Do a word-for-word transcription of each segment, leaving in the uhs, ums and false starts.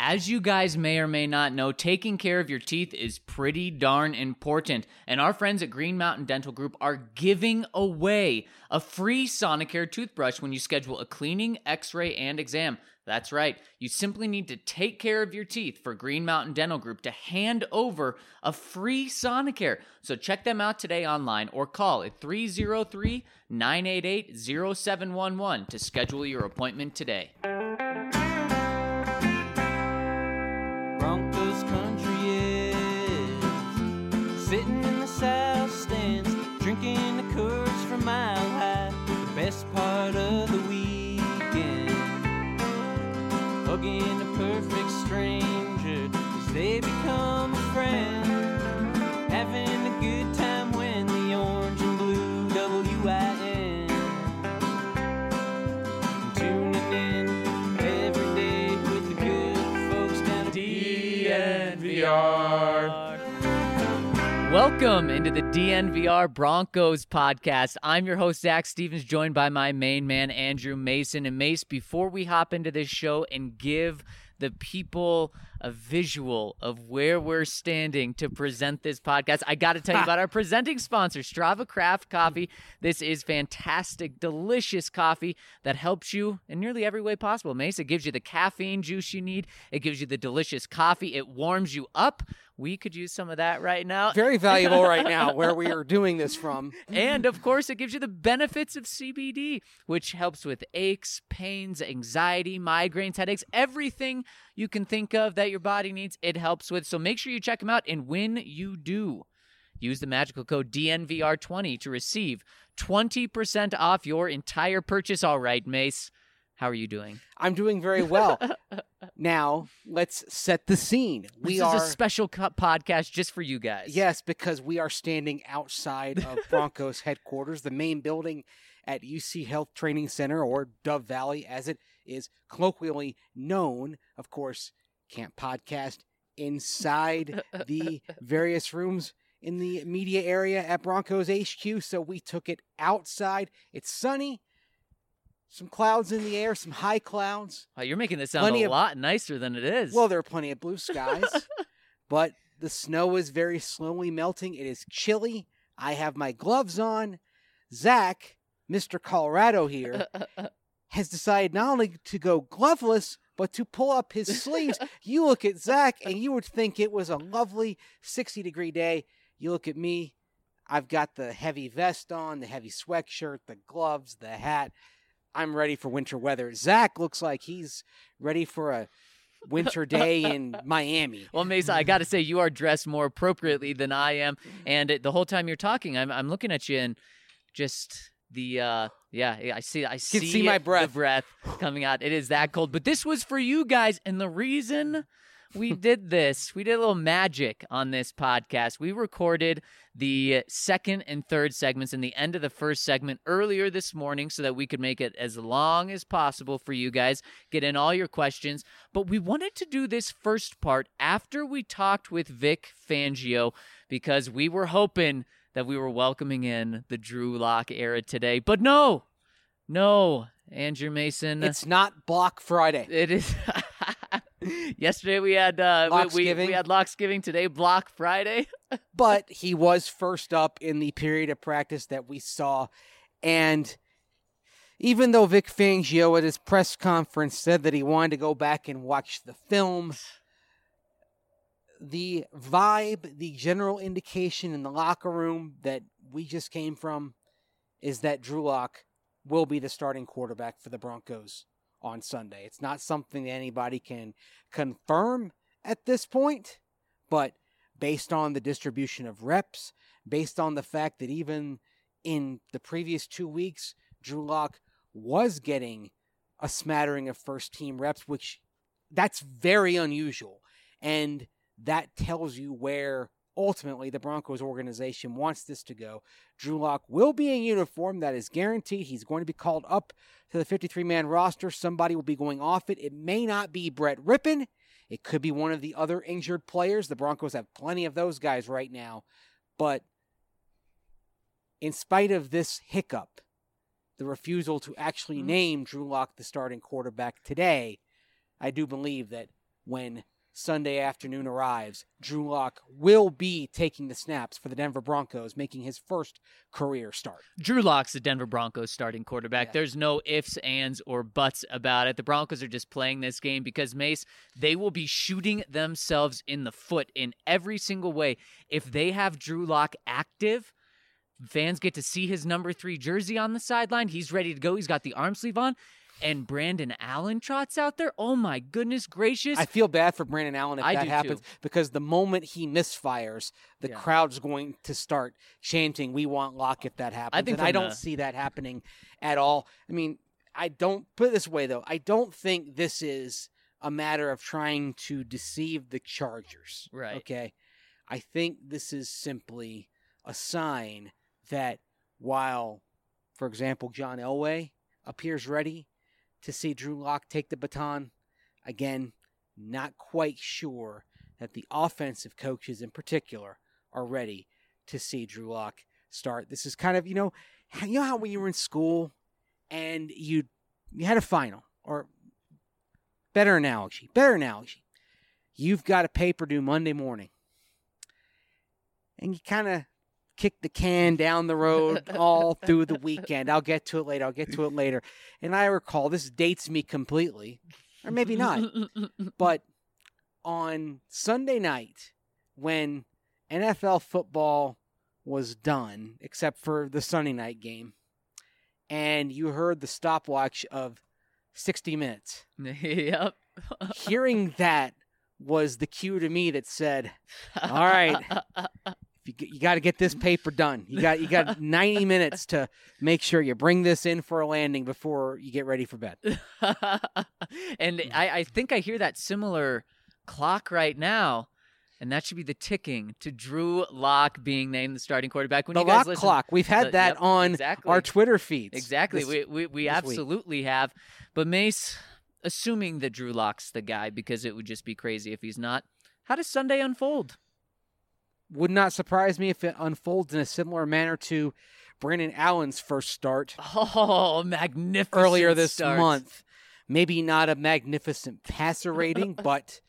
As you guys may or may not know, taking care of your teeth is pretty darn important. And our friends at Green Mountain Dental Group are giving away a free Sonicare toothbrush when you schedule a cleaning, x-ray, and exam. That's right. You simply need to take care of your teeth for Green Mountain Dental Group to hand over a free Sonicare. So check them out today online or call at three oh three, nine eight eight, oh seven one one to schedule your appointment today. Broncos country is sitting in the south stands, drinking the Coors from Mile High, the best part of the weekend. Hugging a perfect stranger as they become a friend. Having a good time when the orange and blue W I N. Tuning in every day with the good folks down at D N V R. Welcome into the D N V R Broncos podcast. I'm your host, Zach Stevens, joined by my main man, Andrew Mason. And Mace, before we hop into this show and give the people a visual of where we're standing to present this podcast, I got to tell you about our presenting sponsor, Strava Craft Coffee. This is fantastic, delicious coffee that helps you in nearly every way possible. Mace, it gives you the caffeine juice you need. It gives you the delicious coffee. It warms you up. We could use some of that right now. Very valuable right now where we are doing this from. And, of course, it gives you the benefits of C B D, which helps with aches, pains, anxiety, migraines, headaches, everything you can think of that your body needs, it helps with. So make sure you check them out. And when you do, use the magical code D N V R twenty to receive twenty percent off your entire purchase. All right, Mace, how are you doing? I'm doing very well. Now, let's set the scene. We this are is a special co- podcast just for you guys. Yes, because we are standing outside of Broncos headquarters, the main building at U C Health Training Center, or Dove Valley, as it is colloquially known. Of course, can't podcast inside the various rooms in the media area at Broncos H Q, so we took it outside. It's sunny. Some clouds in the air, some high clouds. Wow, you're making this sound Plenty a of- lot nicer than it is. Well, there are plenty of blue skies, but the snow is very slowly melting. It is chilly. I have my gloves on. Zach, Mister Colorado here, has decided not only to go gloveless, but to pull up his sleeves. You look at Zach, and you would think it was a lovely sixty-degree day. You look at me. I've got the heavy vest on, the heavy sweatshirt, the gloves, the hat. I'm ready for winter weather. Zach looks like he's ready for a winter day in Miami. Well, Mesa, I got to say, you are dressed more appropriately than I am. And the whole time you're talking, I'm I'm looking at you and just the, uh, yeah, I see, I see, see my it, breath. the breath coming out. It is that cold. But this was for you guys. And the reason we did this, we did a little magic on this podcast. We recorded the second and third segments and the end of the first segment earlier this morning so that we could make it as long as possible for you guys, get in all your questions. But we wanted to do this first part after we talked with Vic Fangio because we were hoping that we were welcoming in the Drew Lock era today. But no, no, Andrew Mason. It's not Block Friday. It is. Yesterday we had uh, we, we, we had Locksgiving. Today Block Friday. But he was first up in the period of practice that we saw. And even though Vic Fangio at his press conference said that he wanted to go back and watch the film, the vibe, the general indication in the locker room that we just came from is that Drew Lock will be the starting quarterback for the Broncos on Sunday. It's not something that anybody can confirm at this point, but based on the distribution of reps, based on the fact that even in the previous two weeks, Drew Lock was getting a smattering of first-team reps, which that's very unusual. And that tells you where ultimately the Broncos organization wants this to go. Drew Lock will be in uniform. That is guaranteed. He's going to be called up to the fifty-three man roster. Somebody will be going off it. It may not be Brett Rippon. It could be one of the other injured players. The Broncos have plenty of those guys right now. But in spite of this hiccup, the refusal to actually name Drew Lock the starting quarterback today, I do believe that when Sunday afternoon arrives, Drew Lock will be taking the snaps for the Denver Broncos, making his first career start. Drew Lock's the Denver Broncos starting quarterback. Yeah. There's no ifs, ands, or buts about it. The Broncos are just playing this game because, Mace, they will be shooting themselves in the foot in every single way. If they have Drew Lock active, fans get to see his number three jersey on the sideline. He's ready to go. He's got the arm sleeve on. And Brandon Allen trots out there. Oh, my goodness gracious. I feel bad for Brandon Allen if I that do happens too. because the moment he misfires, the Yeah. crowd's going to start chanting, "We want Lock" if that happens. I think and I from don't the- see that happening at all. I mean, I don't put it this way, though. I don't think this is a matter of trying to deceive the Chargers. Right. Okay. I think this is simply a sign that while, for example, John Elway appears ready to see Drew Lock take the baton, again, not quite sure that the offensive coaches in particular are ready to see Drew Lock start. This is kind of, you know, you know how when you were in school and you you had a final, or better analogy, better analogy, you've got a paper due Monday morning, and you kind of kick the can down the road all through the weekend. I'll get to it later. I'll get to it later. And I recall, this dates me completely, or maybe not, but on Sunday night when N F L football was done, except for the Sunday night game, and you heard the stopwatch of sixty minutes, Yep. hearing that was the cue to me that said, all right, You, you got to get this paper done. You got you got ninety minutes to make sure you bring this in for a landing before you get ready for bed. And I, I think I hear that similar clock right now, and that should be the ticking to Drew Lock being named the starting quarterback. When The you guys lock listen, clock. We've had the- that yep, on exactly. our Twitter feeds. Exactly. this- we we, we this week. absolutely have. But Mace, assuming that Drew Lock's the guy, because it would just be crazy if he's not, how does Sunday unfold? Would not surprise me if it unfolds in a similar manner to Brandon Allen's first start Oh, magnificent earlier this start. month. Maybe not a magnificent passer rating, but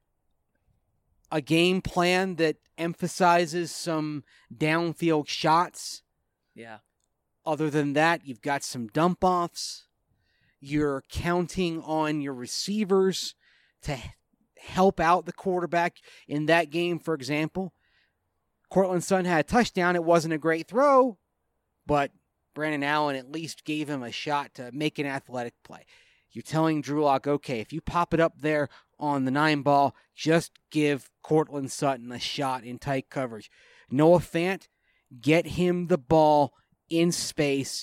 a game plan that emphasizes some downfield shots. Yeah. Other than that, you've got some dump offs. You're counting on your receivers to help out the quarterback in that game, for example. Cortland Sutton had a touchdown. It wasn't a great throw, but Brandon Allen at least gave him a shot to make an athletic play. You're telling Drew Lock, okay, if you pop it up there on the nine ball, just give Cortland Sutton a shot in tight coverage. Noah Fant, get him the ball in space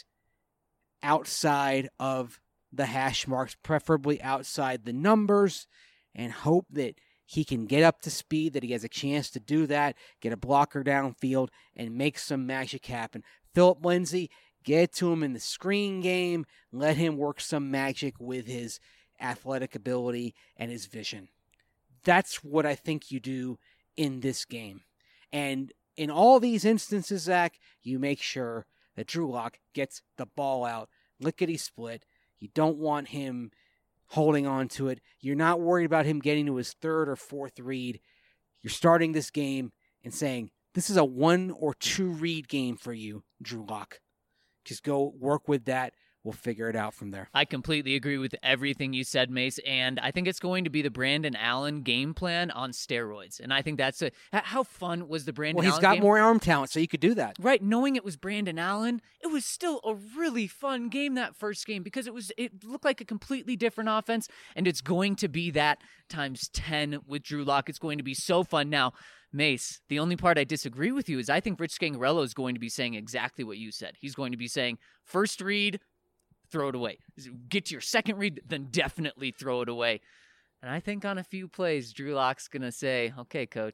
outside of the hash marks, preferably outside the numbers, and hope that he can get up to speed, that he has a chance to do that, get a blocker downfield, and make some magic happen. Phillip Lindsay, get to him in the screen game, let him work some magic with his athletic ability and his vision. That's what I think you do in this game. And in all these instances, Zach, you make sure that Drew Lock gets the ball out, lickety split. You don't want him holding on to it. You're not worried about him getting to his third or fourth read. You're starting this game and saying, this is a one or two read game for you, Drew Lock. Just go work with that. We'll figure it out from there. I completely agree with everything you said, Mace, and I think it's going to be the Brandon Allen game plan on steroids. And I think that's a how fun was the Brandon Well, he's Allen got game? more arm talent, so you could do that. Right, knowing it was Brandon Allen, it was still a really fun game, that first game, because it was it looked like a completely different offense, and it's going to be that times ten with Drew Lock. It's going to be so fun. Now, Mace, the only part I disagree with you is I think Rich Scangarello is going to be saying exactly what you said. He's going to be saying, first read, throw it away. Get to your second read, then definitely throw it away. And I think on a few plays, Drew Lock's going to say, okay, coach,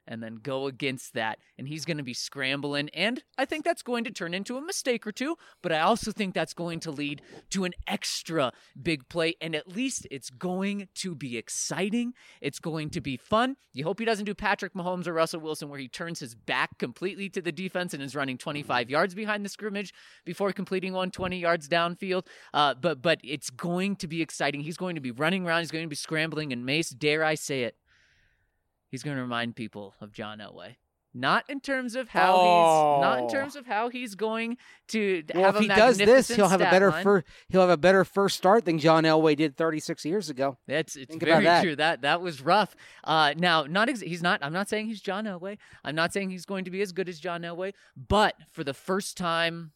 and then go against that. And he's going to be scrambling. And I think that's going to turn into a mistake or two. But I also think that's going to lead to an extra big play. And at least it's going to be exciting. It's going to be fun. You hope he doesn't do Patrick Mahomes or Russell Wilson where he turns his back completely to the defense and is running twenty-five yards behind the scrimmage before completing one twenty yards downfield. Uh, but, but it's going to be exciting. He's going to be running around. He's going to be scrambling. And Mace, dare I say it, he's going to remind people of John Elway. Not in terms of how oh. he's not in terms of how he's going to well, have if a he does this, he'll have a better line. first he'll have a better first start than John Elway did thirty-six years ago. That's it's Think very about that. true. That that was rough. Uh, now, not ex- he's not. I'm not saying he's John Elway. I'm not saying he's going to be as good as John Elway. But for the first time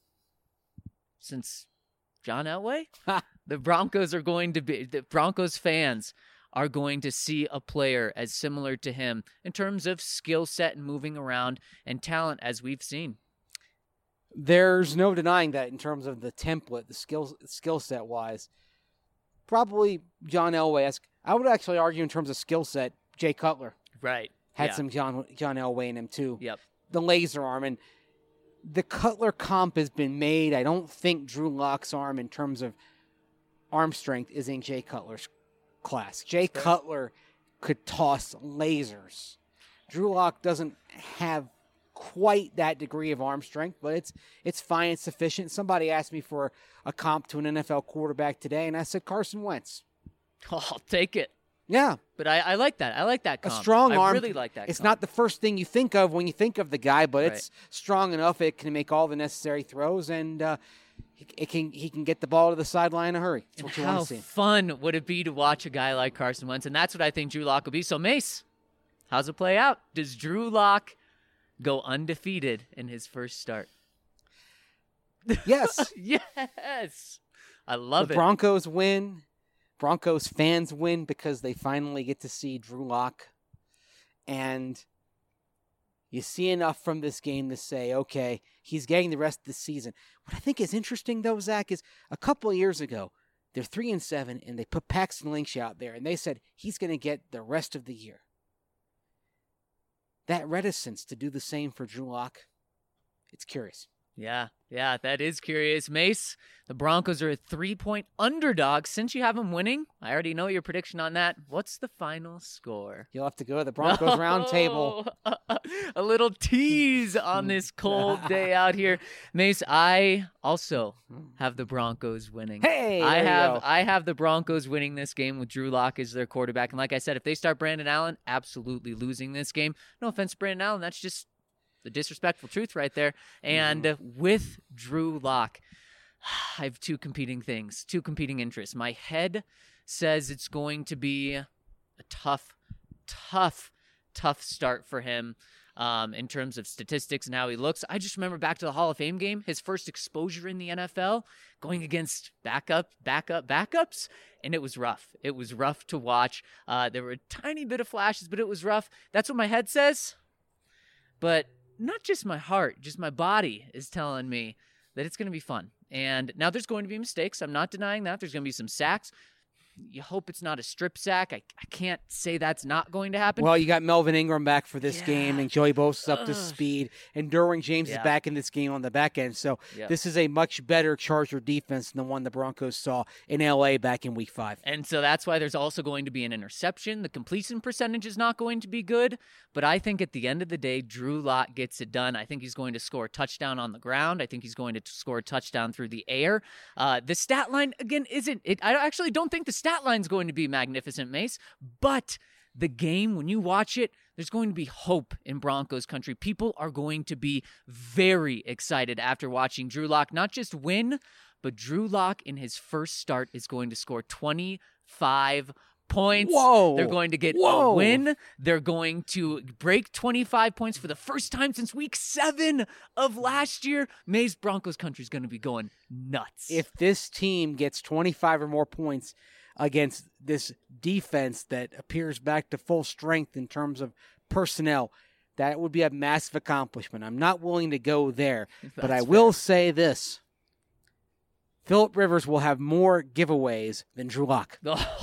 since John Elway, the Broncos are going to be the Broncos fans are going to see a player as similar to him in terms of skill set and moving around and talent as we've seen. There's no denying that in terms of the template, the skill skill set wise. Probably John Elway. I would actually argue in terms of skill set, Jay Cutler Right. had yeah. some John John Elway in him too. Yep. The laser arm and the Cutler comp has been made. I don't think Drew Lock's arm in terms of arm strength is in Jay Cutler's class. Jay Cutler could toss lasers. Drew Lock doesn't have quite that degree of arm strength, but it's it's fine, it's sufficient. Somebody asked me for a comp to an N F L quarterback today, and I said Carson Wentz. Oh, I'll take it. Yeah. But I, I like that. I like that A comp. strong I arm. really like that It's comp. not the first thing you think of when you think of the guy, but Right. it's strong enough it can make all the necessary throws, and uh, it can he can get the ball to the sideline in a hurry. That's what you How want to see. fun would it be to watch a guy like Carson Wentz? And that's what I think Drew Lock will be. So, Mace, how's it play out? Does Drew Lock go undefeated in his first start? Yes. Yes. I love the it. Broncos win. Broncos fans win because they finally get to see Drew Lock. And you see enough from this game to say, okay, he's getting the rest of the season. What I think is interesting, though, Zach, is a couple of years ago, they're three and seven, and they put Paxton Lynch out there, and they said he's going to get the rest of the year. That reticence to do the same for Drew Lock, it's curious. Yeah, yeah, that is curious. Mace, the Broncos are a three-point underdog. Since you have them winning, I already know your prediction on that. What's the final score? You'll have to go to the Broncos round table. A little tease on this cold day out here. Mace, I also have the Broncos winning. Hey, I there you have go. I have the Broncos winning this game with Drew Lock as their quarterback. And like I said, if they start Brandon Allen, absolutely losing this game. No offense, Brandon Allen, that's just the disrespectful truth right there. And uh, with Drew Lock, I have two competing things, two competing interests. My head says it's going to be a tough, tough, tough start for him um, in terms of statistics and how he looks. I just remember back to the Hall of Fame game, his first exposure in the N F L, going against backup, backup, backups, and it was rough. It was rough to watch. Uh, there were a tiny bit of flashes, but it was rough. That's what my head says. But not just my heart, just my body is telling me that it's going to be fun. And now there's going to be mistakes. I'm not denying that. There's going to be some sacks. You hope it's not a strip sack. I, I can't say that's not going to happen. Well, you got Melvin Ingram back for this Yeah. game, and Joey Bosa's up to Ugh. speed, and Derwin James Yeah. is back in this game on the back end. So Yeah. this is a much better Charger defense than the one the Broncos saw in L A back in Week Five. And so that's why there's also going to be an interception. The completion percentage is not going to be good, but I think at the end of the day, Drew Lock gets it done. I think he's going to score a touchdown on the ground. I think he's going to score a touchdown through the air. Uh, the stat line, again, isn't it? I actually don't think the stat line is going to be magnificent, Mace, but the game, when you watch it, there's going to be hope in Broncos country. People are going to be very excited after watching Drew Lock not just win, but Drew Lock in his first start is going to score twenty-five points. Whoa. They're going to get Whoa. a win. They're going to break twenty-five points for the first time since week seven of last year. Mays Broncos country is going to be going nuts. If this team gets twenty-five or more points against this defense that appears back to full strength in terms of personnel, that would be a massive accomplishment. I'm not willing to go there, but I That's will fair. say this. Phillip Rivers will have more giveaways than Drew Lock.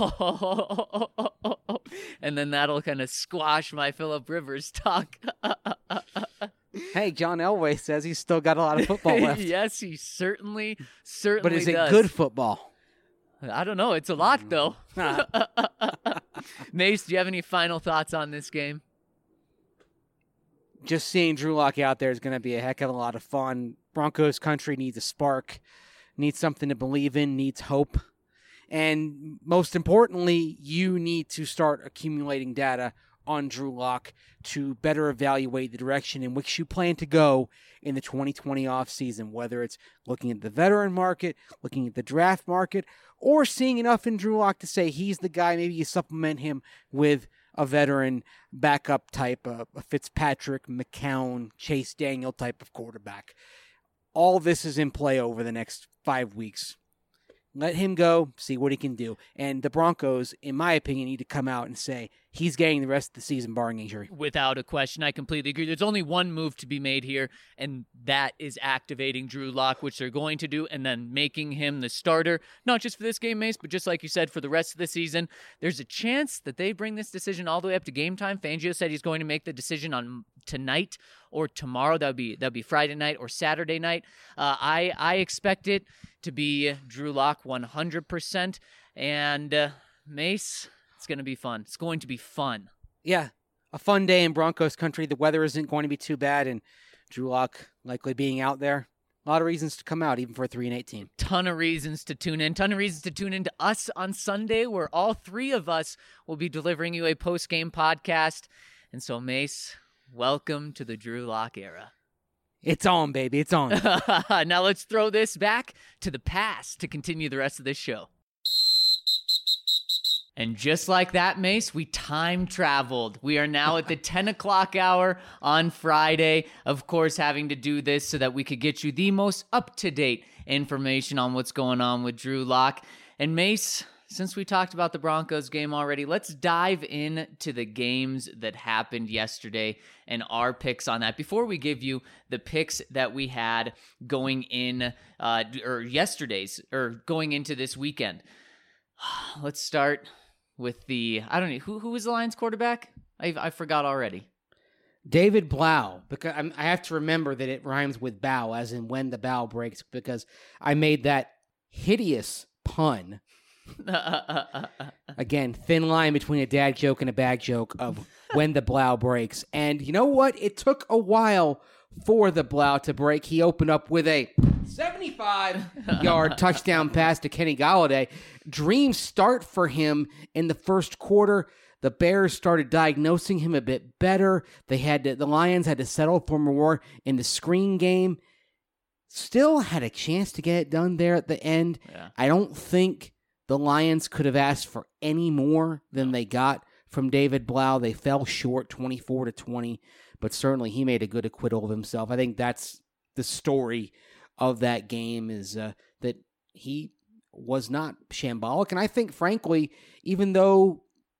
And then that'll kind of squash my Phillip Rivers talk. Hey, John Elway says he's still got a lot of football left. Yes, he certainly, certainly But is it does. good football? I don't know. It's a lot, though. Mace, do you have any final thoughts on this game? Just seeing Drew Lock out there is going to be a heck of a lot of fun. Broncos country needs a spark, needs something to believe in, needs hope. And most importantly, you need to start accumulating data on Drew Lock to better evaluate the direction in which you plan to go in the twenty twenty offseason, whether it's looking at the veteran market, looking at the draft market, or seeing enough in Drew Lock to say he's the guy. Maybe you supplement him with a veteran backup type, a, a Fitzpatrick, McCown, Chase Daniel type of quarterback. All this is in play over the next five weeks. Let him go, see what he can do. And the Broncos, in my opinion, need to come out and say he's getting the rest of the season barring injury. Without a question, I completely agree. There's only one move to be made here, and that is activating Drew Lock, which they're going to do, and then making him the starter, not just for this game, Mace, but just like you said, for the rest of the season. There's a chance that they bring this decision all the way up to game time. Fangio said he's going to make the decision on tonight or tomorrow. That would be that would be Friday night or Saturday night. Uh, I I expect it to be Drew Lock one hundred percent, and uh, Mace, it's going to be fun. It's going to be fun. Yeah, a fun day in Broncos country. The weather isn't going to be too bad, and Drew Lock likely being out there. A lot of reasons to come out, even for a three and eighteen. Ton of reasons to tune in. Ton of reasons to tune in to us on Sunday, where all three of us will be delivering you a post-game podcast. And so, Mace, welcome to the Drew Lock era. It's on, baby. It's on. Now let's throw this back to the past to continue the rest of this show. And just like that, Mace, we time traveled. We are now at the ten o'clock hour on Friday. Of course, having to do this so that we could get you the most up-to-date information on what's going on with Drew Lock. And Mace, since we talked about the Broncos game already, let's dive into the games that happened yesterday and our picks on that. Before we give you the picks that we had going in, uh, or yesterday's, or going into this weekend, let's start with the, I don't know, who who was the Lions quarterback? I I forgot already. David Blau, because I'm, I have to remember that it rhymes with bow, as in when the bow breaks, because I made that hideous pun. Again, thin line between a dad joke and a bag joke of when the Blau breaks. And you know what? It took a while for the Blau to break. He opened up with a seventy-five-yard touchdown pass to Kenny Golladay. Dream start for him in the first quarter. The Bears started diagnosing him a bit better. They had to, the Lions had to settle for more in the screen game. Still had a chance to get it done there at the end. Yeah. I don't think the Lions could have asked for any more than they got from David Blau. They fell short twenty-four to twenty, but certainly he made a good acquittal of himself. I think that's the story of that game, is uh, that he was not shambolic. And I think, frankly, even though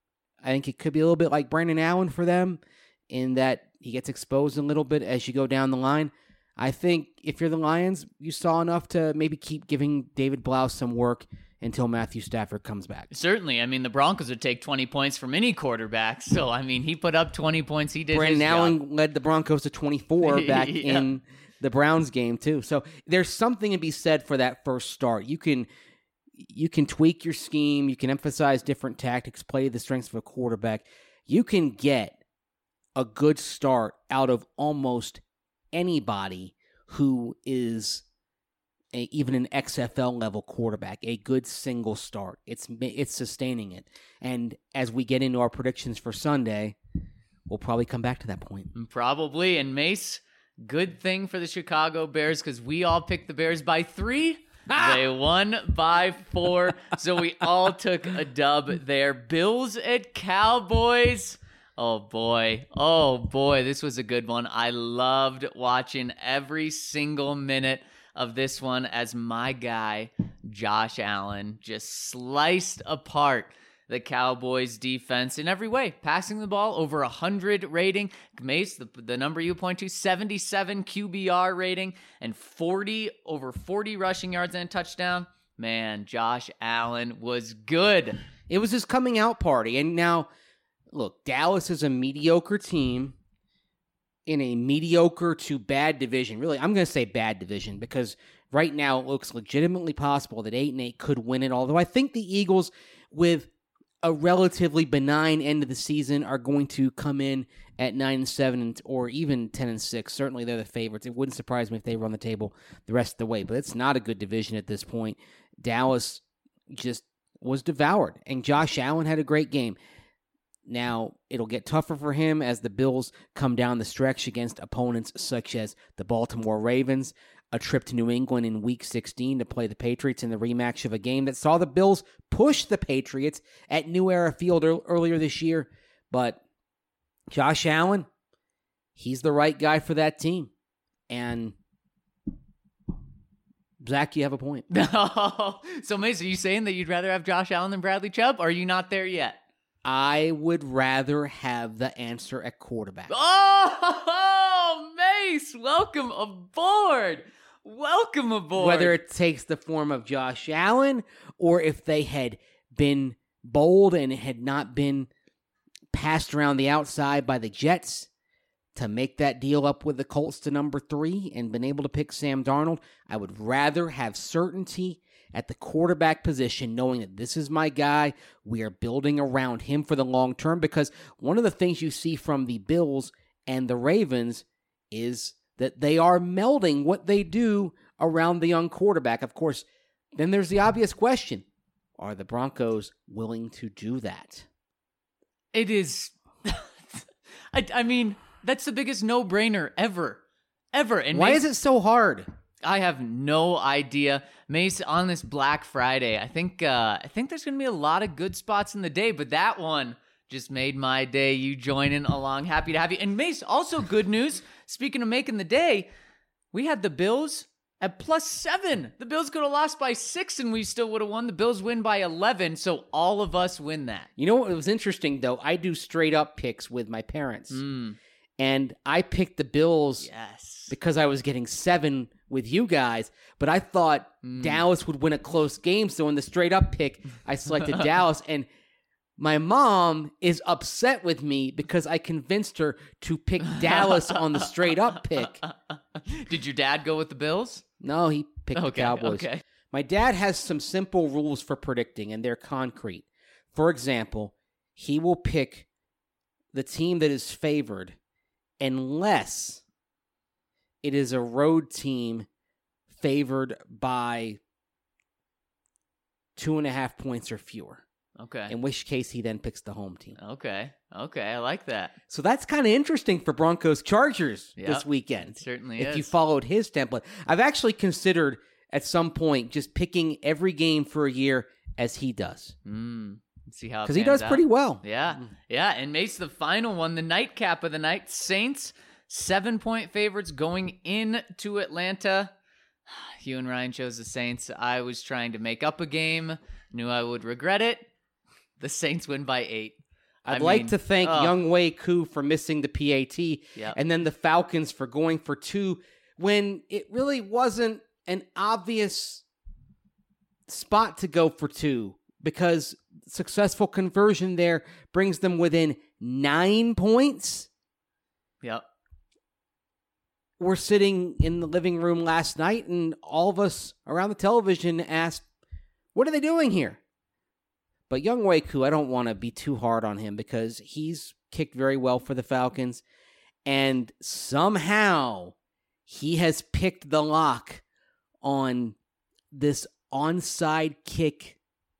I think it could be a little bit like Brandon Allen for them in that he gets exposed a little bit as you go down the line, I think if you're the Lions, you saw enough to maybe keep giving David Blau some work until Matthew Stafford comes back. Certainly. I mean, the Broncos would take twenty points from any quarterback. So, I mean, he put up twenty points. He did Brandon his Allen job. led the Broncos to twenty-four back Yeah. in the Browns game, too. So there's something to be said for that first start. You can you can tweak your scheme. You can emphasize different tactics, play the strengths of a quarterback. You can get a good start out of almost anybody who is a, even an X F L level quarterback. A good single start. It's it's sustaining it. And as we get into our predictions for Sunday, we'll probably come back to that point. Probably. And Mace, good thing for the Chicago Bears, because we all picked the Bears by three. They won by four, so we all took a dub there. Bills at Cowboys. Oh, boy. Oh, boy. This was a good one. I loved watching every single minute of this one as my guy, Josh Allen, just sliced apart the Cowboys defense in every way, passing the ball over one hundred rating. Mace, the, the number you point to, seventy-seven Q B R rating and forty over forty rushing yards and a touchdown. man, Josh Allen was good. It was his coming out party. And now, look, Dallas is a mediocre team in a mediocre to bad division. Really, I'm going to say bad division because right now it looks legitimately possible that eight and eight could win it. Although I think the Eagles, with a relatively benign end of the season, are going to come in at nine and seven or even ten and six. Certainly they're the favorites. It wouldn't surprise me if they run the table the rest of the way, but it's not a good division at this point. Dallas just was devoured, and Josh Allen had a great game. Now, it'll get tougher for him as the Bills come down the stretch against opponents such as the Baltimore Ravens, a trip to New England in Week sixteen to play the Patriots in the rematch of a game that saw the Bills push the Patriots at New Era Field earlier this year. But Josh Allen, he's the right guy for that team. And Zach, you have a point. So, Mason, are you saying that you'd rather have Josh Allen than Bradley Chubb, or are you not there yet? I would rather have the answer at quarterback. Oh, Mace, welcome aboard. Welcome aboard. Whether it takes the form of Josh Allen or if they had been bold and had not been passed around the outside by the Jets to make that deal up with the Colts to number three and been able to pick Sam Darnold, I would rather have certainty at the quarterback position, knowing that this is my guy. We are building around him for the long term, because one of the things you see from the Bills and the Ravens is that they are melding what they do around the young quarterback. Of course, then there's the obvious question. Are the Broncos willing to do that? It is. I, I mean, that's the biggest no-brainer ever. Ever. And why Mace, is it so hard? I have no idea. Mace, on this Black Friday, I think uh, I think there's going to be a lot of good spots in the day, but that one just made my day. You joining along. Happy to have you. And Mace, also good news. Speaking of making the day, we had the Bills at plus seven. The Bills could have lost by six and we still would have won. The Bills win by eleven, so all of us win that. You know what was interesting, though? I do straight-up picks with my parents. Mm. And I picked the Bills yes. because I was getting seven with you guys, but I thought mm. Dallas would win a close game, so in the straight-up pick, I selected Dallas, and my mom is upset with me because I convinced her to pick Dallas on the straight-up pick. Did your dad go with the Bills? No, he picked okay, the Cowboys. Okay. My dad has some simple rules for predicting, and they're concrete. For example, he will pick the team that is favored unless it is a road team favored by two and a half points or fewer. Okay. In which case, he then picks the home team. Okay. Okay. I like that. So that's kind of interesting for Broncos Chargers yep, this weekend. It certainly if is. you followed his template. I've actually considered at some point just picking every game for a year as he does. Mm. See how because he does out. pretty well. Yeah. Yeah. And Mace, the final one, the nightcap of the night, Saints, seven point favorites going into Atlanta. You and Ryan chose the Saints. I was trying to make up a game, knew I would regret it. The Saints win by eight. I'd I like mean, to thank uh, Young Wei Koo for missing the P A T, yep. and then the Falcons for going for two when it really wasn't an obvious spot to go for two, because successful conversion there brings them within nine points. Yep. We're sitting in the living room last night, and all of us around the television asked, what are they doing here? But Young Wei Koo, I don't want to be too hard on him because he's kicked very well for the Falcons, and somehow he has picked the lock on this onside kick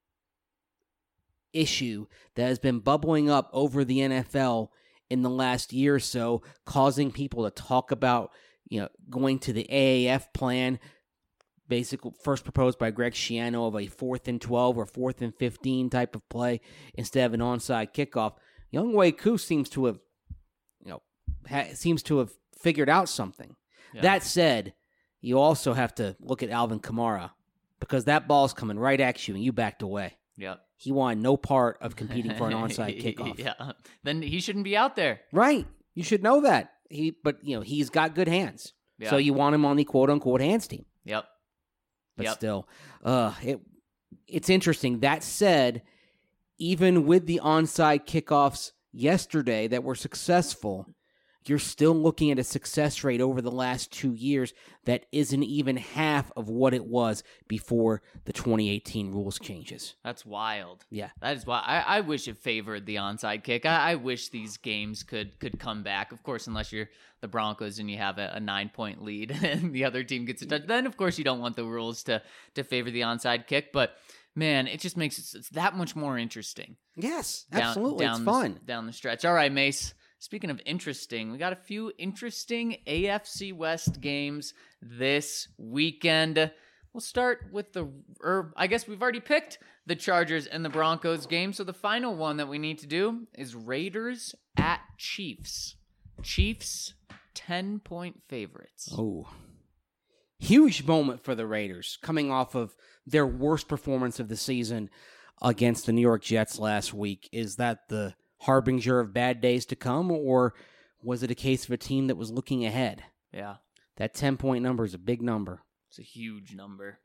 issue that has been bubbling up over the N F L in the last year or so, causing people to talk about, you know, going to the A A F plan, basically first proposed by Greg Schiano, of a fourth and twelve or fourth and fifteen type of play instead of an onside kickoff. Young Wei Koo seems to have, you know, ha- seems to have figured out something. Yeah. That said, you also have to look at Alvin Kamara, because that ball's coming right at you and you backed away. Yep. He wanted no part of competing for an onside kickoff. Yeah. Then he shouldn't be out there. Right. You should know that. He, but you know, he's got good hands. Yeah. So you want him on the quote unquote hands team. Yep. but Yep. still, uh, it it's interesting. That said, even with the onside kickoffs yesterday that were successful, you're still looking at a success rate over the last two years that isn't even half of what it was before the twenty eighteen rules changes. That's wild. Yeah. That is why I, I wish it favored the onside kick. I, I wish these games could could come back. Of course, unless you're the Broncos and you have a, a nine point lead and the other team gets a touch, then of course you don't want the rules to to favor the onside kick. But man, it just makes it it's that much more interesting. Yes, Down, absolutely. down it's the, fun. down the stretch. All right, Mace. Speaking of interesting, we got a few interesting A F C West games this weekend. We'll start with the, or I guess we've already picked the Chargers and the Broncos game. So the final one that we need to do is Raiders at Chiefs. Chiefs, ten point favorites. Oh, huge moment for the Raiders coming off of their worst performance of the season against the New York Jets last week. Is that the harbinger of bad days to come, or was it a case of a team that was looking ahead? Yeah. That ten-point number is a big number. It's a huge number.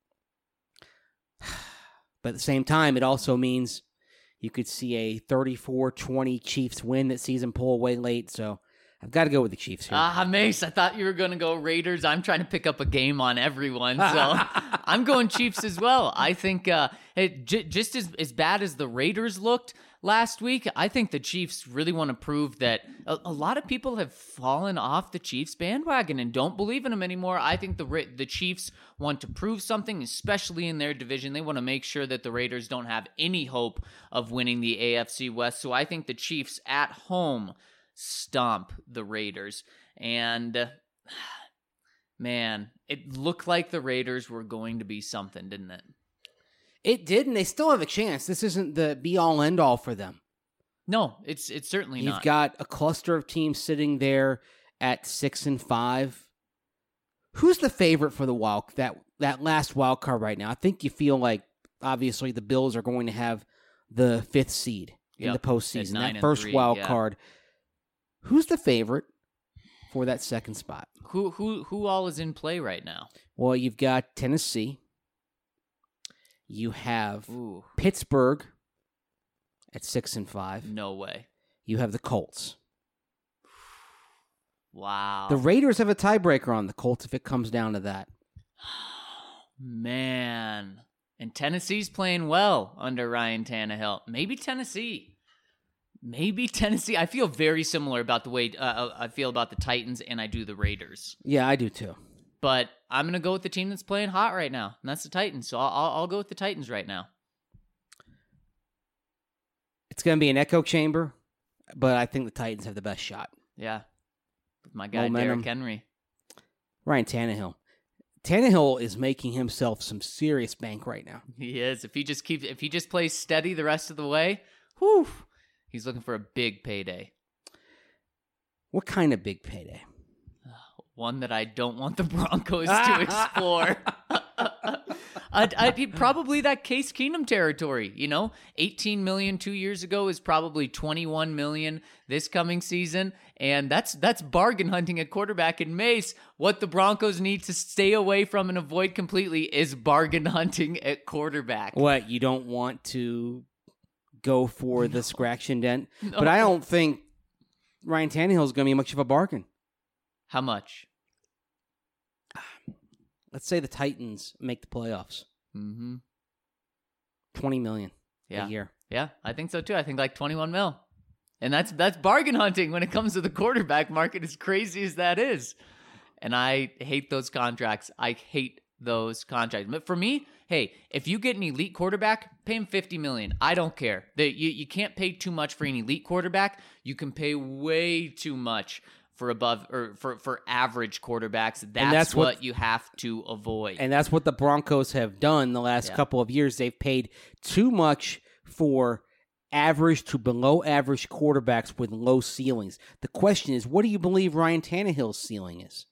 But at the same time, it also means you could see a thirty-four twenty Chiefs win that sees them pull away late, so I've got to go with the Chiefs here. Ah, Mace, I thought you were going to go Raiders. I'm trying to pick up a game on everyone, so I'm going Chiefs as well. I think uh, it, j- just as, as bad as the Raiders looked last week, I think the Chiefs really want to prove that a, a lot of people have fallen off the Chiefs bandwagon and don't believe in them anymore. I think the Ra- the Chiefs want to prove something, especially in their division. They want to make sure that the Raiders don't have any hope of winning the A F C West. So I think the Chiefs at home stomp the Raiders. And uh, man, it looked like the Raiders were going to be something, didn't it? It did, and they still have a chance. This isn't the be-all, end-all for them. No, it's it's certainly You've not. got a cluster of teams sitting there at six and five. Who's the favorite for the wild that that last wild card right now? I think you feel like obviously the Bills are going to have the fifth seed in Yep, the postseason. at nine That and first three, wild yeah. card. Who's the favorite for that second spot? Who who who all is in play right now? Well, you've got Tennessee. You have Ooh, Pittsburgh at six and five. no way. You have the Colts. Wow. The Raiders have a tiebreaker on the Colts if it comes down to that. Man. And Tennessee's playing well under Ryan Tannehill. Maybe Tennessee. Maybe Tennessee. I feel very similar about the way uh, I feel about the Titans and I do the Raiders. Yeah, I do too. But I'm going to go with the team that's playing hot right now, and that's the Titans. So I'll, I'll, I'll go with the Titans right now. It's going to be an echo chamber, but I think the Titans have the best shot. Yeah. With my guy, Momentum. Derrick Henry. Ryan Tannehill. Tannehill is making himself some serious bank right now. He is. If he just keeps, if he just plays steady the rest of the way, whew, he's looking for a big payday. What kind of big payday? One that I don't want the Broncos to explore. I'd, I'd be probably that Case Keenum territory. You know, eighteen million two years ago is probably twenty-one million this coming season, and that's that's bargain hunting at quarterback. In Mace, what the Broncos need to stay away from and avoid completely is bargain hunting at quarterback. What, you don't want to go for the scratch and dent? No. But I don't think Ryan Tannehill is going to be much of a bargain. How much? Let's say the Titans make the playoffs. Mm-hmm. twenty million Yeah. a year. Yeah, I think so too. I think like twenty-one mil. And that's that's bargain hunting when it comes to the quarterback market, as crazy as that is. And I hate those contracts. I hate those contracts. But for me, hey, if you get an elite quarterback, pay him fifty million dollars. I don't care. The, you, you can't pay too much for an elite quarterback. You can pay way too much for above or for, for average quarterbacks. That's, that's what, what- you have to avoid. And that's what the Broncos have done the last Yeah. couple of years. They've paid too much for average to below average quarterbacks with low ceilings. The question is, what do you believe Ryan Tannehill's ceiling is?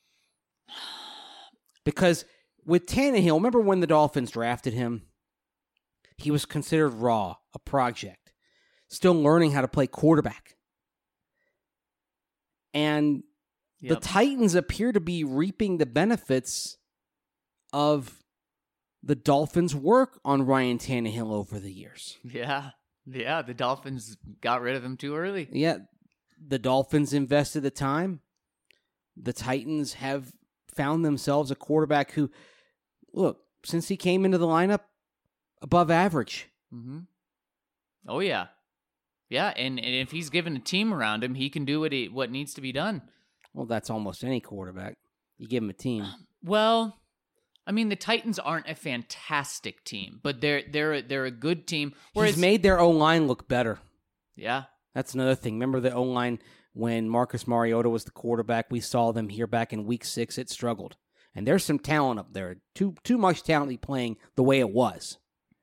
Because with Tannehill, remember when the Dolphins drafted him? He was considered raw, a project, still learning how to play quarterback. And the Yep. Titans appear to be reaping the benefits of the Dolphins work on Ryan Tannehill over the years. Yeah. Yeah, the Dolphins got rid of him too early. Yeah, the Dolphins invested the time. The Titans have found themselves a quarterback who, look, since he came into the lineup, above average. Mm-hmm. Oh, yeah. Yeah, and, and if he's given a team around him, he can do what he, what needs to be done. Well, that's almost any quarterback. You give him a team. Well, I mean, the Titans aren't a fantastic team, but they're they're they're a good team. He's made their O-line look better. Yeah. That's another thing. Remember the O-line when Marcus Mariota was the quarterback? We saw them here back in week six. It struggled. And there's some talent up there. Too too much talent to be playing the way it was.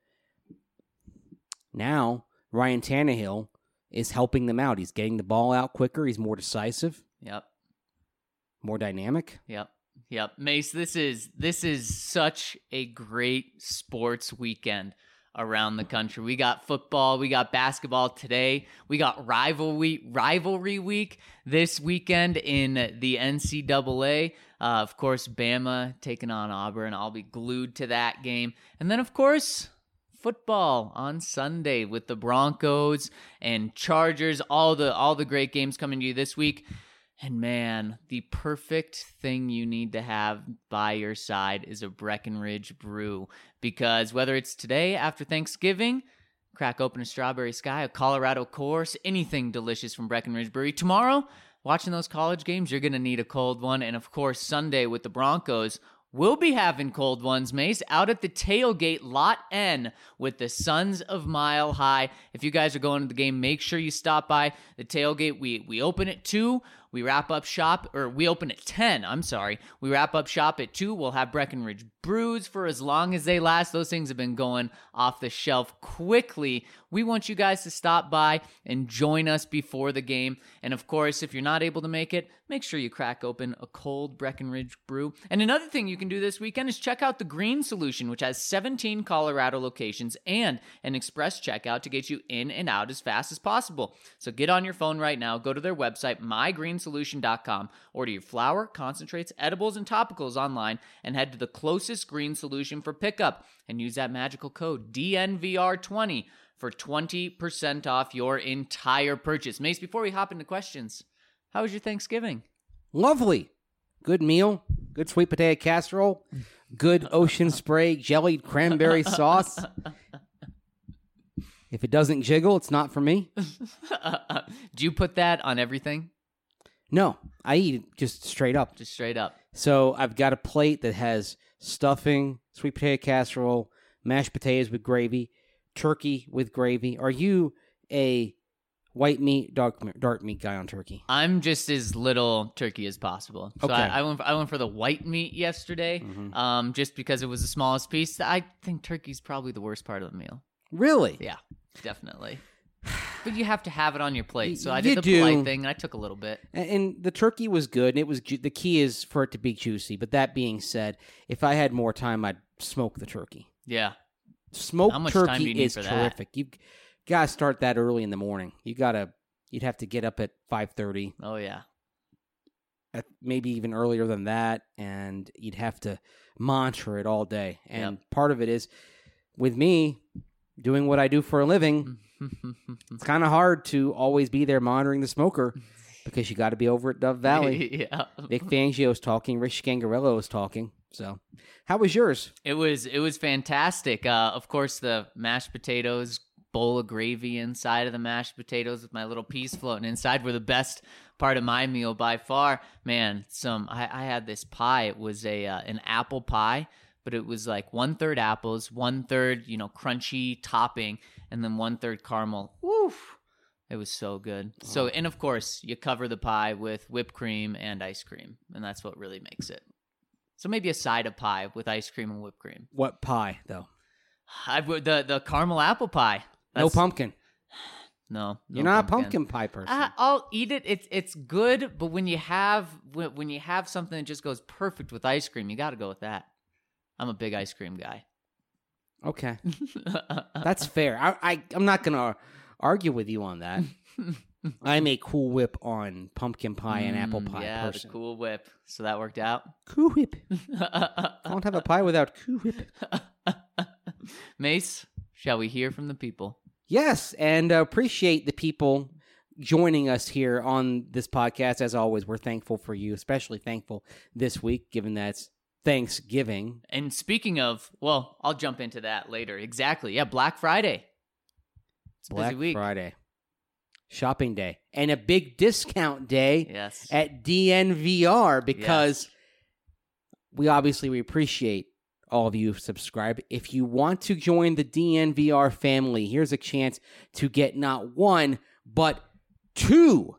Now, Ryan Tannehill is helping them out. He's getting the ball out quicker. He's more decisive. Yep. More dynamic. Yep. Yep. Mace, this is this is such a great sports weekend around the country. We got football, we got basketball today, we got rivalry rivalry week this weekend in the N C double A. Uh, of course, Bama taking on Auburn. I'll be glued to that game. And then, of course, football on Sunday with the Broncos and Chargers. All the all the great games coming to you this week. And man, the perfect thing you need to have by your side is a Breckenridge brew. Because whether it's today after Thanksgiving, crack open a Strawberry Sky, a Colorado course, anything delicious from Breckenridge Brewery. Tomorrow, watching those college games, you're going to need a cold one. And of course, Sunday with the Broncos, we'll be having cold ones, Mace, out at the tailgate, Lot N, with the Sons of Mile High. If you guys are going to the game, make sure you stop by the tailgate. We we open at two. We wrap up shop, or we open at ten, I'm sorry. We wrap up shop at two. We'll have Breckenridge brews for as long as they last. Those things have been going off the shelf quickly. We want you guys to stop by and join us before the game. And of course, if you're not able to make it, make sure you crack open a cold Breckenridge brew. And another thing you can do this weekend is check out the Green Solution, which has seventeen Colorado locations and an express checkout to get you in and out as fast as possible. So get on your phone right now, go to their website, my green solution dot com, order your flour, concentrates, edibles, and topicals online, and head to the closest Green Solution for pickup, and use that magical code D N V R twenty for twenty percent off your entire purchase. Mace, before we hop into questions, how was your Thanksgiving? Lovely. Good meal. Good sweet potato casserole. Good Ocean Spray jellied cranberry sauce. If it doesn't jiggle, it's not for me. Do you put that on everything? No, I eat it just straight up. Just straight up. So I've got a plate that has stuffing, sweet potato casserole, mashed potatoes with gravy, turkey with gravy. Are you a white meat, dark dark meat guy on turkey? I'm just as little turkey as possible. So okay. I, I went for, I went for the white meat yesterday, mm-hmm. um, just because it was the smallest piece. I think turkey's probably the worst part of the meal. Really? Yeah, definitely. But you have to have it on your plate. So I you did the do. polite thing, and I took a little bit. And, and the turkey was good, and it was ju- the key is for it to be juicy. But that being said, if I had more time, I'd smoke the turkey. Yeah. Smoked How much time do turkey you need is for that? terrific. You gotta start that early in the morning. You gotta, you'd have to get up at five thirty. Oh yeah. At maybe even earlier than that, and you'd have to monitor it all day. And Yep. part of it is, with me doing what I do for a living, it's kind of hard to always be there monitoring the smoker because you got to be over at Dove Valley. Yeah. Vic Fangio's talking. Rich Scangarello is talking. So, how was yours? It was it was fantastic. Uh, of course, the mashed potatoes, bowl of gravy inside of the mashed potatoes with my little peas floating inside were the best part of my meal by far. Man, some I, I had this pie. It was a uh, an apple pie, but it was like one third apples, one third you know crunchy topping, and then one third caramel. Woof! It was so good. Oh. So, and of course, you cover the pie with whipped cream and ice cream, and that's what really makes it. So maybe a side of pie with ice cream and whipped cream. What pie, though? I the the caramel apple pie. That's, no pumpkin. No, no you're not pumpkin. a pumpkin pie person. Uh, I'll eat it. It's it's good, but when you have when, when you have something that just goes perfect with ice cream, you got to go with that. I'm a big ice cream guy. Okay, that's fair. I, I I'm not gonna argue with you on that. I'm a Cool Whip on pumpkin pie and apple pie yeah, person. the Cool Whip. So that worked out. Cool Whip. I don't have a pie without Cool Whip. Mace, shall we hear from the people? Yes, and uh, appreciate the people joining us here on this podcast. As always, we're thankful for you, especially thankful this week, given that it's Thanksgiving. And speaking of, well, I'll jump into that later. Exactly. Yeah, Black Friday. It's a Black busy week. Friday. Shopping day. And a big discount day Yes. at D N V R because Yes. we obviously we appreciate all of you who subscribe. If you want to join the D N V R family, here's a chance to get not one, but two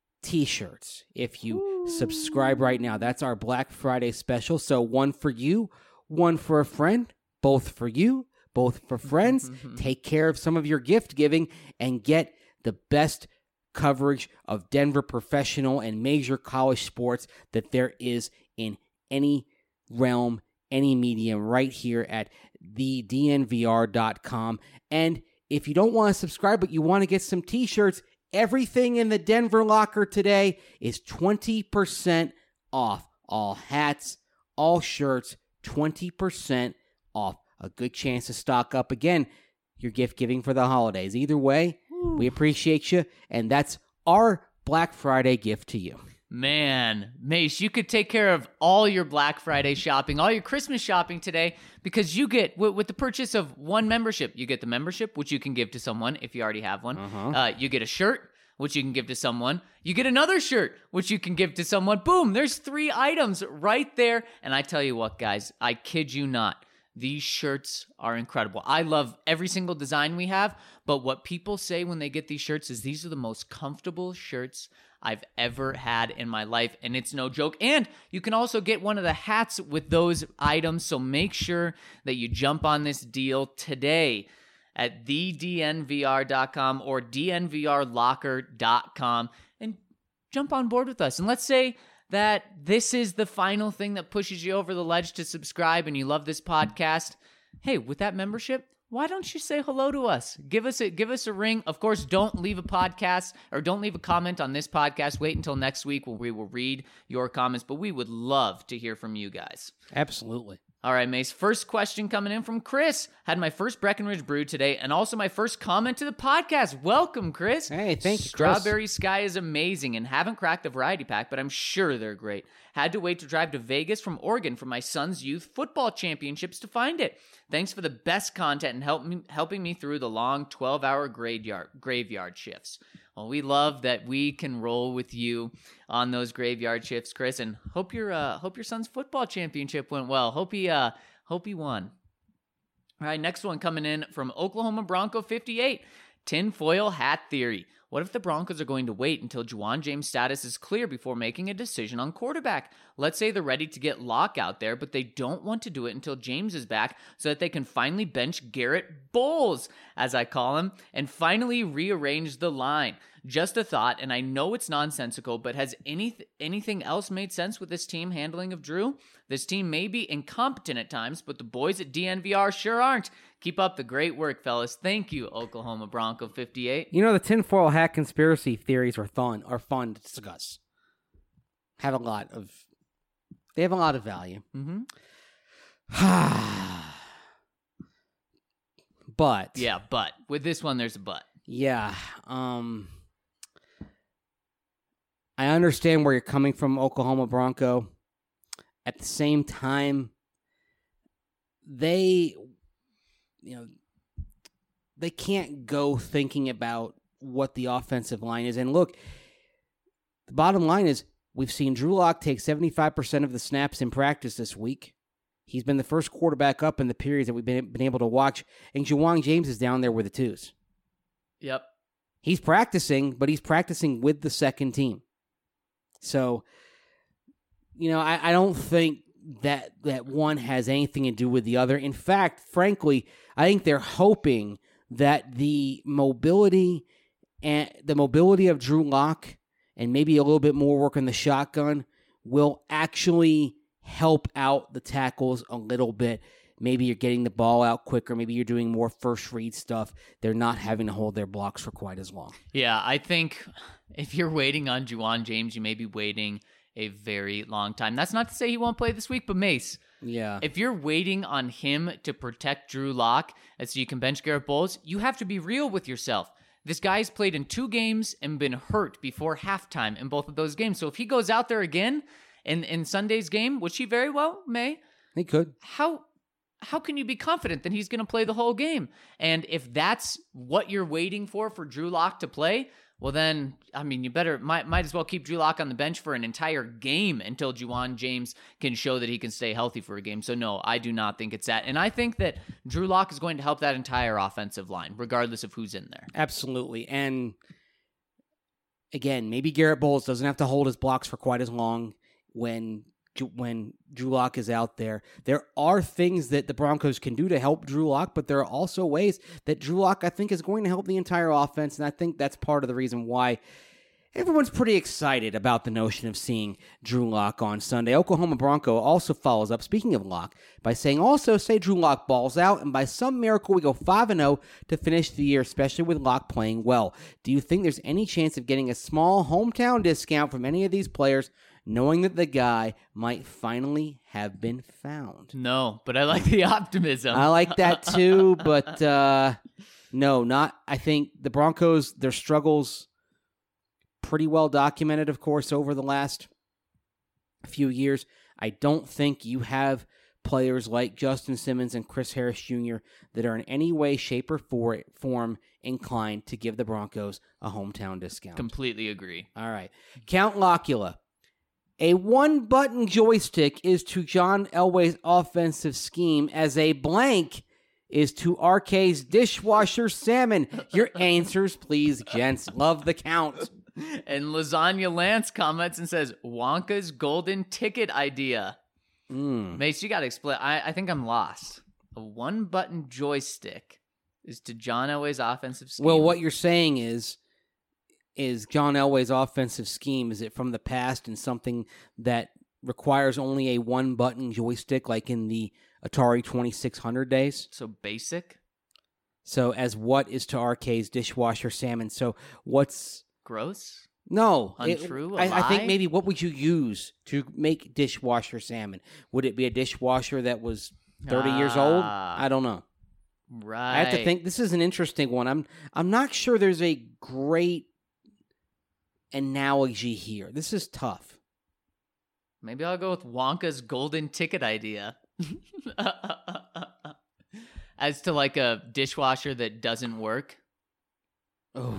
t-shirts if you Ooh. subscribe right now. That's our Black Friday special. So one for you, one for a friend, both for you, both for friends. Take care of some of your gift giving and get the best coverage of Denver professional and major college sports that there is in any realm, any medium, right here at the D N V R dot com. And if you don't want to subscribe, but you want to get some t-shirts, everything in the Denver locker today is twenty percent off. All hats, all shirts, twenty percent off. A good chance to stock up again your gift giving for the holidays. Either way, Ooh. we appreciate you, and that's our Black Friday gift to you. Man, Mace, you could take care of all your Black Friday shopping, all your Christmas shopping today, because you get, w- with the purchase of one membership, you get the membership, which you can give to someone if you already have one. Uh-huh. Uh, you get a shirt, which you can give to someone. You get another shirt, which you can give to someone. Boom, there's three items right there. And I tell you what, guys, I kid you not. These shirts are incredible. I love every single design we have, but what people say when they get these shirts is these are the most comfortable shirts I've ever had in my life, and it's no joke. And you can also get one of the hats with those items, so make sure that you jump on this deal today at the D N V R dot com or D N V R locker dot com and jump on board with us. And let's say that this is the final thing that pushes you over the ledge to subscribe and you love this podcast. Hey, with that membership, why don't you say hello to us? Give us a give us a ring. Of course, don't leave a podcast or don't leave a comment on this podcast. Wait until next week when we will read your comments, but we would love to hear from you guys. Absolutely. All right, Mace. First question coming in from Chris. Had my first Breckenridge brew today and also my first comment to the podcast. Welcome, Chris. Hey, thank you, Strawberry Chris. Sky is amazing and haven't cracked the variety pack, but I'm sure they're great. Had to wait to drive to Vegas from Oregon for my son's youth football championships to find it. Thanks for the best content and help me, helping me through the long twelve-hour graveyard, graveyard shifts. Well, we love that we can roll with you on those graveyard shifts, Chris, and hope your uh, hope your son's football championship went well. Hope he uh, hope he won. All right, next one coming in from Oklahoma Bronco fifty-eight. Tinfoil hat theory. What if the Broncos are going to wait until Juwan James' status is clear before making a decision on quarterback? Let's say they're ready to get Locke out there, but they don't want to do it until James is back so that they can finally bench Garrett Bowles, as I call him, and finally rearrange the line. Just a thought, and I know it's nonsensical, but has any, anything else made sense with this team handling of Drew? This team may be incompetent at times, but the boys at D N V R sure aren't. Keep up the great work, fellas. Thank you, Oklahoma Bronco fifty-eight. You know, the tinfoil hat conspiracy theories are fun, are fun to discuss. Have a lot of, they have a lot of value. Mm-hmm. But. Yeah, but. With this one, there's a but. Yeah. Um, I understand where you're coming from, Oklahoma Bronco. At the same time, they, you know, they can't go thinking about what the offensive line is. And look, the bottom line is we've seen Drew Lock take seventy-five percent of the snaps in practice this week. He's been the first quarterback up in the periods that we've been, been able to watch. And Juwan James is down there with the twos. Yep. He's practicing, but he's practicing with the second team. So, you know, I, I don't think that that one has anything to do with the other. In fact, frankly, I think they're hoping that the mobility and the mobility of Drew Lock and maybe a little bit more work on the shotgun will actually help out the tackles a little bit. Maybe you're getting the ball out quicker. Maybe you're doing more first read stuff. They're not having to hold their blocks for quite as long. Yeah, I think if you're waiting on Juwan James, you may be waiting a very long time. That's not to say he won't play this week, but Mace, Yeah. If you're waiting on him to protect Drew Lock so you can bench Garrett Bowles, you have to be real with yourself. This guy's played in two games and been hurt before halftime in both of those games. So if he goes out there again in, in Sunday's game, which he very well may, He could. how how can you be confident that he's going to play the whole game? And if that's what you're waiting for for Drew Lock to play, well then, I mean, you better might might as well keep Drew Lock on the bench for an entire game until Juwan James can show that he can stay healthy for a game. So no, I do not think it's that. And I think that Drew Lock is going to help that entire offensive line, regardless of who's in there. Absolutely. And again, maybe Garrett Bowles doesn't have to hold his blocks for quite as long when when Drew Lock is out there. There are things that the Broncos can do to help Drew Lock, but there are also ways that Drew Lock, I think, is going to help the entire offense, and I think that's part of the reason why everyone's pretty excited about the notion of seeing Drew Lock on Sunday. Oklahoma Bronco also follows up, speaking of Lock, by saying, also say Drew Lock balls out, and by some miracle we go five and oh to finish the year, especially with Lock playing well. Do you think there's any chance of getting a small hometown discount from any of these players, knowing that the guy might finally have been found? No, but I like the optimism. I like that too, but uh, no, not. I think the Broncos, their struggles, pretty well documented, of course, over the last few years. I don't think you have players like Justin Simmons and Chris Harris Junior that are in any way, shape, or form inclined to give the Broncos a hometown discount. Completely agree. All right. Count Locula. A one-button joystick is to John Elway's offensive scheme as a blank is to R K's dishwasher salmon. Your answers, please, gents. Love the count. And Lasagna Lance comments and says, Wonka's golden ticket idea. Mm. Mace, you got to explain. I, I think I'm lost. A one-button joystick is to John Elway's offensive scheme. Well, what you're saying is, is John Elway's offensive scheme, is it from the past and something that requires only a one-button joystick like in the Atari twenty-six hundred days? So basic? So as what is to R K's dishwasher salmon? So what's... Gross? No. Untrue? It, A I, I think lie? maybe what would you use to make dishwasher salmon? Would it be a dishwasher that was thirty years old? Ah. I don't know. Right. I have to think. This is an interesting one. I'm I'm not sure there's a great analogy here. This is tough. Maybe I'll go with Wonka's golden ticket idea. As to like a dishwasher that doesn't work. Oh.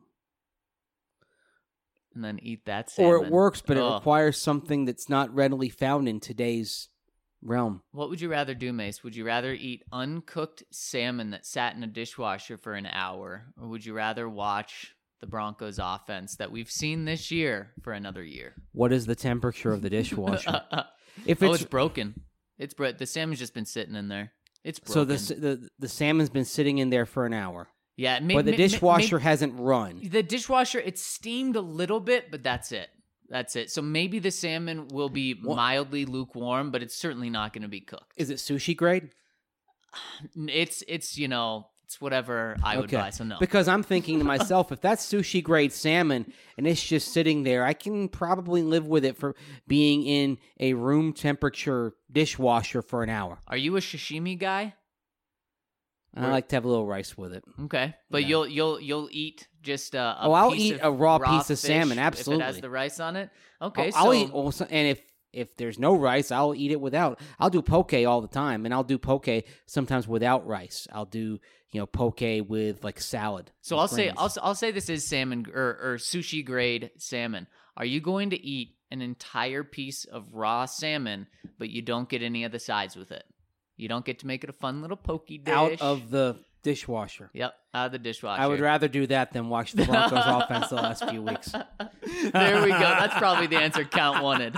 And then eat that salmon. Or it works, but it Ugh. requires something that's not readily found in today's realm. What would you rather do, Mace? Would you rather eat uncooked salmon that sat in a dishwasher for an hour? Or would you rather watch the Broncos offense that we've seen this year for another year? What is the temperature of the dishwasher? If oh, it's, it's broken. It's bro- The salmon's just been sitting in there. It's broken. so the, the the salmon's been sitting in there for an hour. Yeah, may- But the may- dishwasher may- hasn't run. The dishwasher, it's steamed a little bit, but that's it. That's it. So maybe the salmon will be What? mildly lukewarm, but it's certainly not going to be cooked. Is it sushi grade? It's, it's you know, it's whatever I would buy, so no. Because I'm thinking to myself, if that's sushi grade salmon and it's just sitting there, I can probably live with it for being in a room temperature dishwasher for an hour. Are you a sashimi guy? And I like to have a little rice with it. Okay, but Yeah. you'll you'll you'll eat just a, a Oh, I'll piece eat of a raw piece of fish salmon, if absolutely. it has the rice on it. Okay, I'll, so I'll eat also, and if if there's no rice, I'll eat it without. I'll do poke all the time, and I'll do poke sometimes without rice. I'll do you know poke with like salad. So with I'll say greens. I'll I'll say this is salmon or, or sushi grade salmon. Are you going to eat an entire piece of raw salmon, but you don't get any of the sides with it? You don't get to make it a fun little pokey dish out of the dishwasher. Yep, out of the dishwasher. I would rather do that than watch the Broncos offense the last few weeks. There we go. That's probably the answer Count wanted.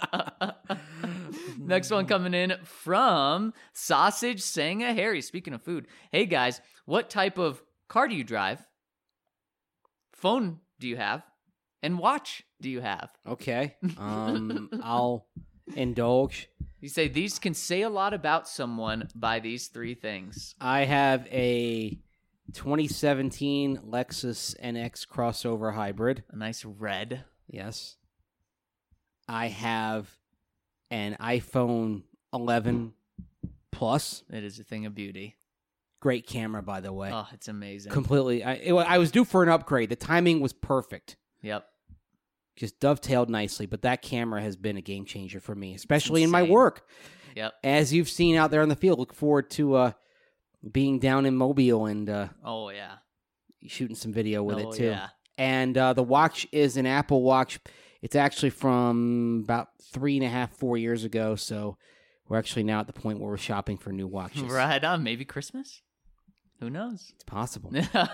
Next one coming in from Sausage Sanga Harry. Speaking of food, hey guys, what type of car do you drive? Phone do you have? And watch do you have? Okay, um, I'll indulge. You say these can say a lot about someone by these three things. I have a twenty seventeen Lexus N X crossover hybrid. A nice red. Yes. I have an iPhone eleven plus. It is a thing of beauty. Great camera, by the way. Oh, it's amazing. Completely. I, it, I was due for an upgrade. The timing was perfect. Yep. Just dovetailed nicely. But that camera has been a game changer for me, especially in my insane. work. Yep. As you've seen out there on the field, look forward to uh, being down in Mobile and uh, Oh, yeah. shooting some video with oh, it, too. Yeah. And uh, the watch is an Apple Watch. It's actually from about three and a half, four years ago. So we're actually now at the point where we're shopping for new watches. Right on. Maybe Christmas? Who knows? It's possible.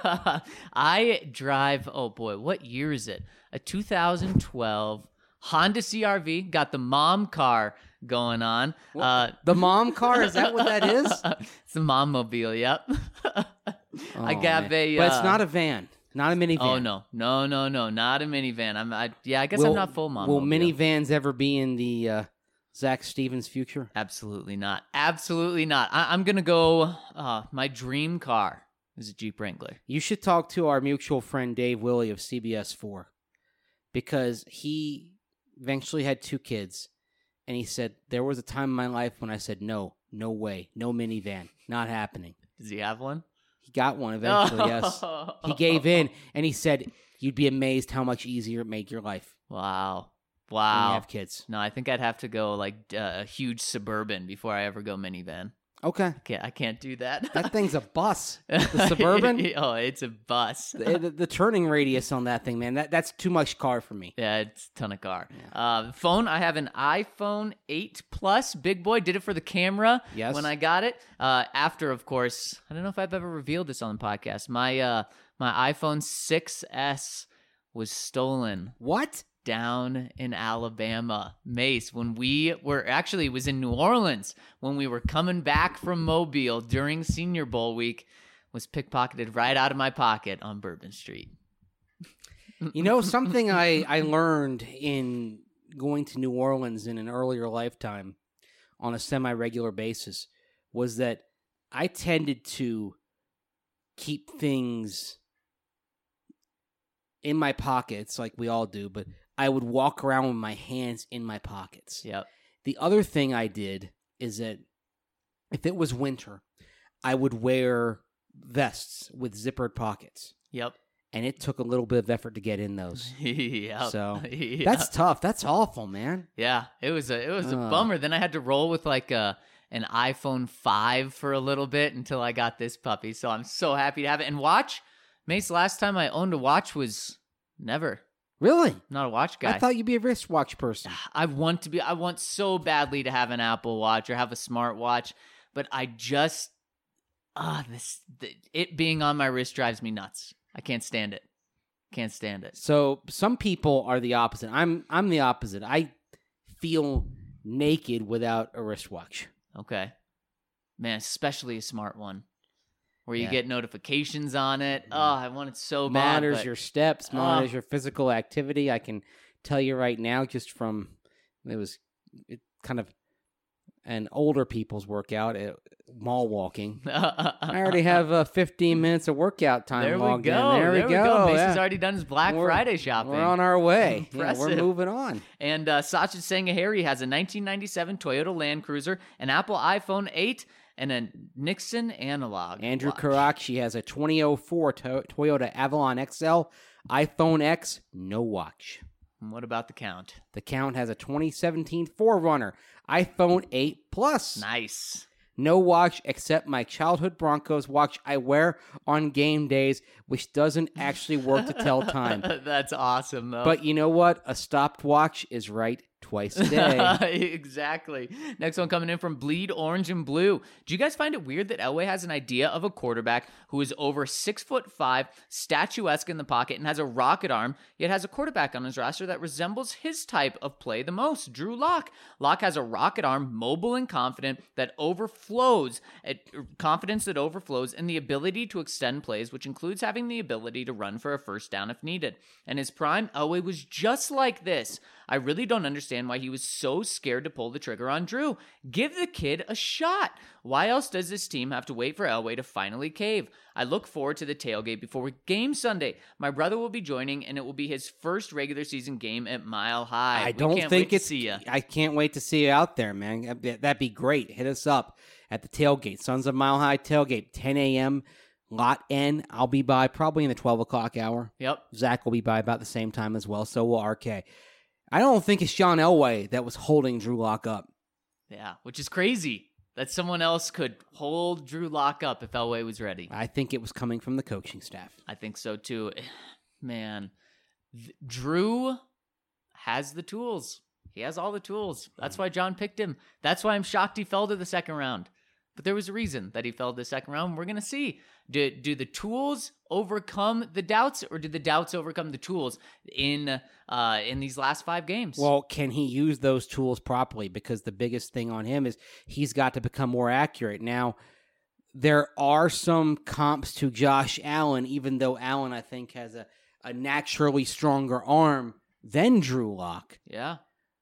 I drive, oh boy, what year is it? A two thousand twelve Honda C R V. Got the mom car going on. Uh, The mom car? Is that what that is? it's the mom mobile, yep. I Oh, got man. a... But it's uh, not a van. Not a minivan. Oh, no. No, no, no. Not a minivan. I'm, I, yeah, I guess Will- I'm not full mom Will mobile. minivans ever be in the uh, Zach Stevens future? Absolutely not. Absolutely not. I, I'm going to go, uh, my dream car is a Jeep Wrangler. You should talk to our mutual friend Dave Willie of C B S four because he eventually had two kids, and he said, there was a time in my life when I said, no, no way, no minivan, not happening. Does he have one? He got one eventually, yes. He gave in, and he said, you'd be amazed how much easier it made your life Wow. when Wow. you have kids. No, I think I'd have to go like uh, a huge Suburban before I ever go minivan. Okay. Can't, I can't do that. That thing's a bus. The Suburban? Oh, it's a bus. the, the, the turning radius on that thing, man, that, that's too much car for me. Yeah, it's a ton of car. Uh, phone, I have an iPhone eight Plus. Big boy, did it for the camera Yes. when I got it. Uh, after, of course, I don't know if I've ever revealed this on the podcast. My uh, my iPhone six S was stolen What? down in Alabama. Mace, when we were actually it was in New Orleans when we were coming back from Mobile during Senior Bowl week, was pickpocketed right out of my pocket on Bourbon Street. You know, something I, I learned in going to New Orleans in an earlier lifetime on a semi-regular basis was that I tended to keep things in my pockets like we all do, but I would walk around with my hands in my pockets. Yep. The other thing I did is that if it was winter, I would wear vests with zippered pockets. Yep. And it took a little bit of effort to get in those. Yep. So Yep. that's tough. That's awful, man. yeah. It was a it was a Ugh. bummer. Then I had to roll with like a an iPhone five for a little bit until I got this puppy. So I'm so happy to have it. And watch, Mace, last time I owned a watch was never. Really? I'm not a watch guy. I thought you'd be a wristwatch person. I want to be I want so badly to have an Apple Watch or have a smartwatch, but I just ah this the, it being on my wrist drives me nuts. I can't stand it. Can't stand it. So some people are the opposite. I'm I'm the opposite. I feel naked without a wristwatch. Okay. Man, especially a smart one where you Yeah. get notifications on it. Oh, I want it so bad. Monitors but- your steps, monitors Oh. your physical activity. I can tell you right now, just from it was it kind of an older people's workout at mall walking. I already have uh, fifteen minutes of workout time There we logged go. in. There, there we go. Mason's yeah. already done his Black We're- Friday shopping. We're on our way. Yeah, we're Impressive. moving on. And uh, Sachin Sangahari has a nineteen ninety-seven Toyota Land Cruiser, an Apple iPhone eight, and a Nixon analog. Andrew watch. Karachi has a twenty oh four to- Toyota Avalon X L, iPhone X, no watch. And what about the Count? The Count has a twenty seventeen four runner, iPhone eight Plus. Nice. No watch except my childhood Broncos watch I wear on game days, which doesn't actually work to tell time. That's awesome, though. But you know what? A stopped watch is right twice a day. Exactly. Next one coming in from Bleed Orange and Blue. Do you guys find it weird that Elway has an idea of a quarterback who is over six foot five, statuesque in the pocket, and has a rocket arm, yet has a quarterback on his roster that resembles his type of play the most, Drew Lock. Lock has a rocket arm, mobile and confident, that overflows, at, confidence that overflows, and the ability to extend plays, which includes having the ability to run for a first down if needed. And his prime, Elway was just like this. I really don't understand why he was so scared to pull the trigger on Drew. Give the kid a shot. Why else does this team have to wait for Elway to finally cave? I look forward to the tailgate before game Sunday. My brother will be joining, and it will be his first regular season game at Mile High. I We don't can't think wait it's. to see ya. I can't wait to see you out there, man. That'd that'd be great. Hit us up at the tailgate, Sons of Mile High tailgate, ten a.m. Lot N. I'll be by probably in the twelve o'clock hour. Yep. Zach will be by about the same time as well. So will R K. I don't think it's Sean Elway that was holding Drew Lock up. Yeah, which is crazy that someone else could hold Drew Lock up if Elway was ready. I think it was coming from the coaching staff. I think so too. Man, th- Drew has the tools. He has all the tools. That's why John picked him. That's why I'm shocked he fell to the second round. But there was a reason that he fell to the second round. We're going to see. Do, do the tools overcome the doubts, or do the doubts overcome the tools in uh, in these last five games? Well, can he use those tools properly? Because the biggest thing on him is he's got to become more accurate. Now, there are some comps to Josh Allen, even though Allen, I think, has a, a naturally stronger arm than Drew Lock. Yeah.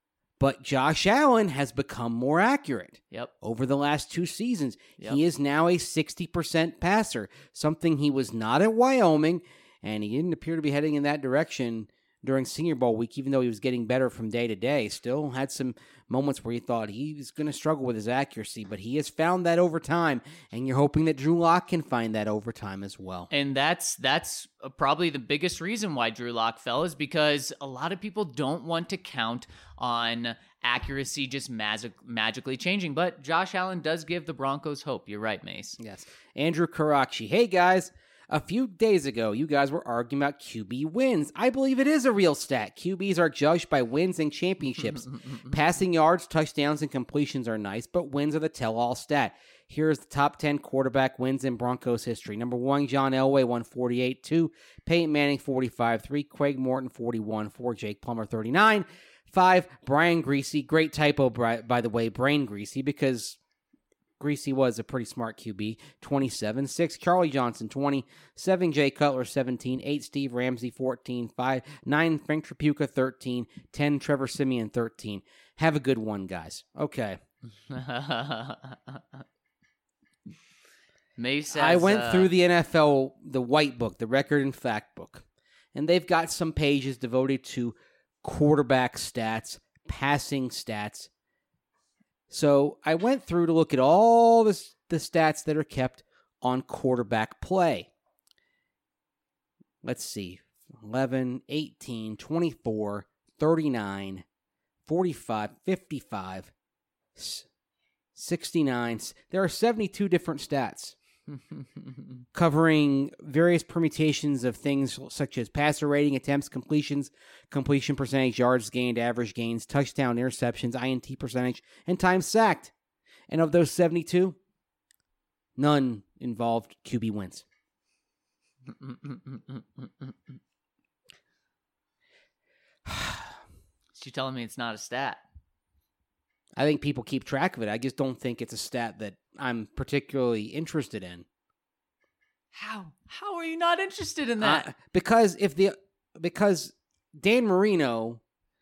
But Josh Allen has become more accurate. Yep. Over the last two seasons. Yep. He is now a sixty percent passer, something he was not at Wyoming, and he didn't appear to be heading in that direction during Senior Bowl week, even though he was getting better from day to day. Still had some moments where you thought he was going to struggle with his accuracy, but he has found that over time, and you're hoping that Drew Lock can find that over time as well. And that's that's probably the biggest reason why Drew Lock fell, is because a lot of people don't want to count on accuracy just magic, magically changing. But Josh Allen does give the Broncos hope. You're right, Mace. Yes. Andrew Karachi. Hey, guys. A few days ago, you guys were arguing about Q B wins. I believe it is a real stat. Q Bs are judged by wins and championships. Passing yards, touchdowns, and completions are nice, but wins are the tell-all stat. Here's the top ten quarterback wins in Broncos history. Number one, John Elway, one forty-eight. Two, Peyton Manning, forty-five. Three, Craig Morton, forty-one. Four, Jake Plummer, thirty-nine. Five, Brian Greasy. Great typo, by the way, Brain Greasy, because Greasy was a pretty smart Q B. twenty-seven. Six, Charlie Johnson, twenty. Seven, Jay Cutler, seventeen. Eight, Steve Ramsey, fourteen. Five, nine, Frank Tripucka, thirteen. Ten, Trevor Siemian, thirteen. Have a good one, guys. Okay. Mace says, I went uh, through the N F L, the white book, the record and fact book, and they've got some pages devoted to quarterback stats, passing stats. So I went through to look at all this, the stats that are kept on quarterback play. Let's see. eleven, eighteen, twenty-four, thirty-nine, forty-five, fifty-five, sixty-nine. There are seventy-two different stats covering various permutations of things such as passer rating, attempts, completions, completion percentage, yards gained, average gains, touchdown, interceptions, I N T percentage, and time sacked. And of those seventy-two, none involved Q B wins. So you're telling me it's not a stat? I think people keep track of it. I just don't think it's a stat that I'm particularly interested in. How? How are you not interested in that? Uh, because if the because Dan Marino,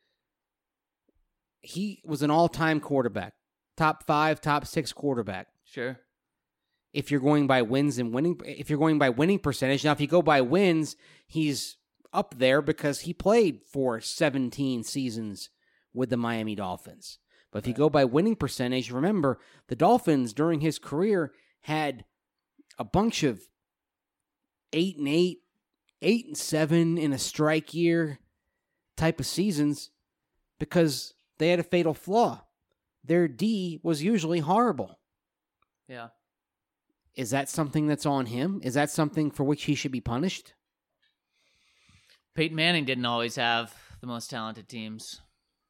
he was an all-time quarterback, top five, top six quarterback. Sure. If you're going by wins and winning, if you're going by winning percentage, now if you go by wins, he's up there because he played for seventeen seasons with the Miami Dolphins. But if you go by winning percentage, remember, the Dolphins during his career had a bunch of eight and eight, eight and seven in a strike year type of seasons because they had a fatal flaw. Their D was usually horrible. Yeah. Is that something that's on him? Is that something for which he should be punished? Peyton Manning didn't always have the most talented teams.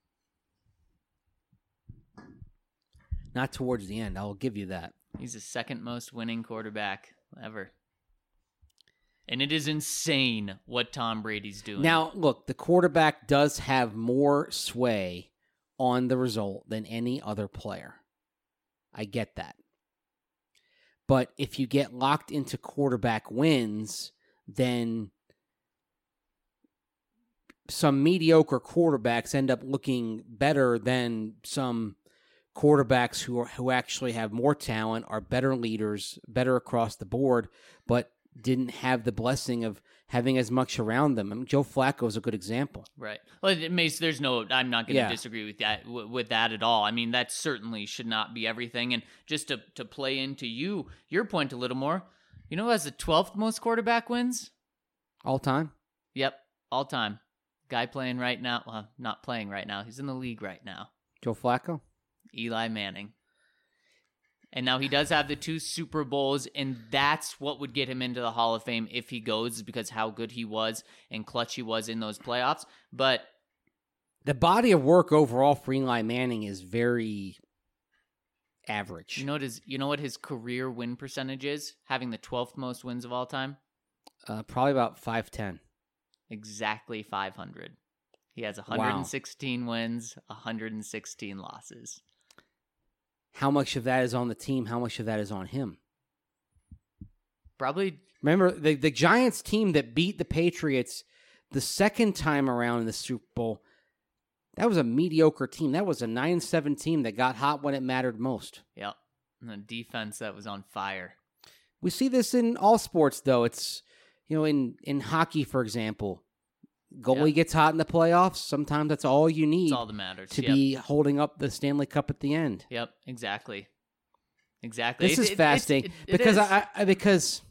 Not towards the end. I'll give you that. He's the second most winning quarterback ever. And it is insane what Tom Brady's doing. Now, look, the quarterback does have more sway on the result than any other player. I get that. But if you get locked into quarterback wins, then some mediocre quarterbacks end up looking better than some quarterbacks who are, who actually have more talent, are better leaders, better across the board, but didn't have the blessing of having as much around them. I mean, Joe Flacco is a good example. Right. Well, it makes, there's no, I'm not going to Yeah. disagree with that, w- with that at all. I mean, that certainly should not be everything. And just to, to play into you, your point a little more, you know who has the twelfth most quarterback wins? All time? Yep. All time. Guy playing right now. Well, not playing right now. He's in the league right now. Joe Flacco? Eli Manning. And now he does have the two Super Bowls, and that's what would get him into the Hall of Fame if he goes, is because how good he was and clutch he was in those playoffs. But the body of work overall for Eli Manning is very average. you know what his, you know what his career win percentage is, having the twelfth most wins of all time? Uh, probably about five ten. Exactly five hundred. He has one hundred sixteen wow. wins, one hundred sixteen losses. How much of that is on the team? How much of that is on him? Probably. Remember, the, the Giants team that beat the Patriots the second time around in the Super Bowl, that was a mediocre team. That was a nine seven team that got hot when it mattered most. Yep. And a defense that was on fire. We see this in all sports, though. It's, you know, in, in hockey, for example, goalie Yep. gets hot in the playoffs. Sometimes that's all you need That's all that matters. to Yep. be holding up the Stanley Cup at the end. Yep, exactly. Exactly. This It- is it- fascinating it's- it- it because is. I, I because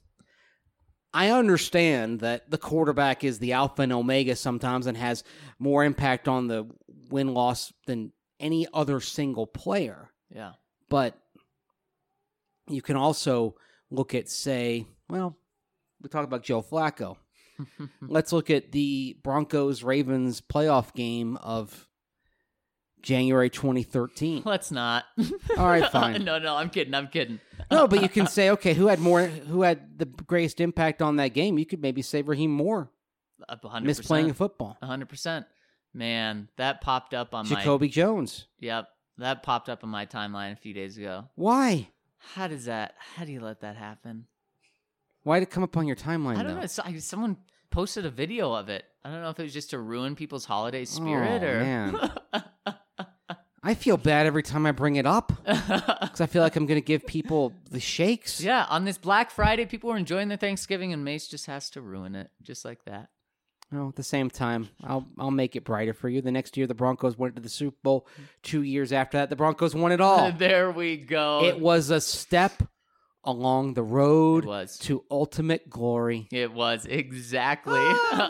I understand that the quarterback is the alpha and omega sometimes and has more impact on the win-loss than any other single player. Yeah. But you can also look at, say, well, we talked about Joe Flacco. Let's look at the Broncos-Ravens playoff game of January twenty thirteen. Let's not. All right, fine. no, no, I'm kidding. I'm kidding. No, but you can say, okay, who had more? Who had the greatest impact on that game? You could maybe say Raheem Moore Up one hundred percent. misplaying football. one hundred percent. Man, that popped up on my... Jacoby Jones. Yep, that popped up on my timeline a few days ago. Why? How does that... How do you let that happen? Why did it come up on your timeline? I don't though? know. So- Someone posted a video of it. I don't know if it was just to ruin people's holiday spirit Oh, or... man. I feel bad every time I bring it up because I feel like I'm going to give people the shakes. Yeah, on this Black Friday, people were enjoying their Thanksgiving, and Mace just has to ruin it, just like that. Well, at the same time, I'll I'll make it brighter for you. The next year, the Broncos went to the Super Bowl. Two years after that, the Broncos won it all. There we go. It was a step along the road It was. to ultimate glory. It was, exactly.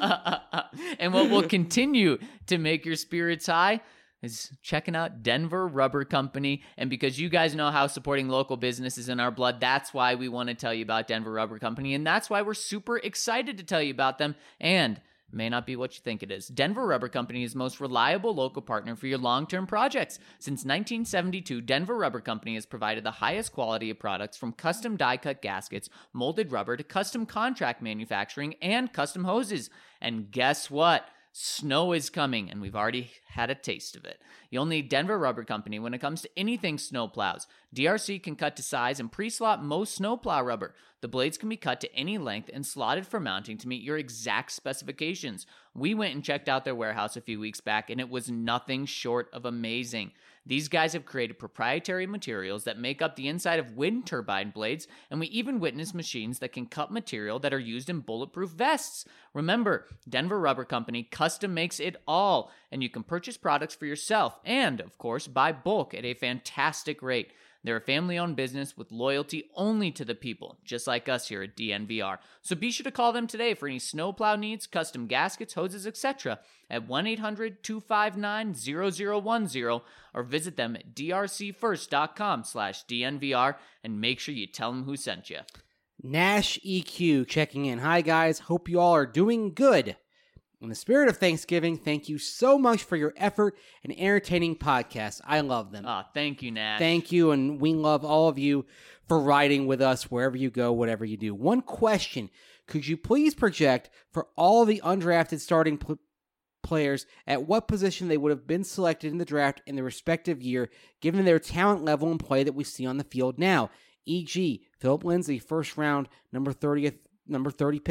And what will continue to make your spirits high is checking out Denver Rubber Company. And because you guys know how supporting local business is in our blood, that's why we want to tell you about Denver Rubber Company. And that's why we're super excited to tell you about them. And it may not be what you think it is. Denver Rubber Company is the most reliable local partner for your long-term projects. Since nineteen seventy-two, Denver Rubber Company has provided the highest quality of products from custom die-cut gaskets, molded rubber, to custom contract manufacturing and custom hoses. And guess what? Snow is coming, and we've already had a taste of it. You'll need Denver Rubber Company when it comes to anything snowplows. D R C can cut to size and pre-slot most snowplow rubber. The blades can be cut to any length and slotted for mounting to meet your exact specifications. We went and checked out their warehouse a few weeks back, and it was nothing short of amazing. These guys have created proprietary materials that make up the inside of wind turbine blades, and we even witnessed machines that can cut material that are used in bulletproof vests. Remember, Denver Rubber Company custom makes it all, and you can purchase products for yourself and, of course, buy bulk at a fantastic rate. They're a family-owned business with loyalty only to the people, just like us here at D N V R. So be sure to call them today for any snowplow needs, custom gaskets, hoses, et cetera at one eight hundred two five nine zero zero one zero or visit them at drcfirst.com slash DNVR and make sure you tell them who sent you. Nash E Q checking in. Hi, guys. Hope you all are doing good. In the spirit of Thanksgiving, thank you so much for your effort and entertaining podcasts. I love them. Ah, thank you, Nash. Thank you, and we love all of you for riding with us wherever you go, whatever you do. One question. Could you please project for all the undrafted starting pl- players at what position they would have been selected in the draft in their respective year, given their talent level and play that we see on the field now? for example, Philip Lindsay, first round, number thirtieth, number thirty pick.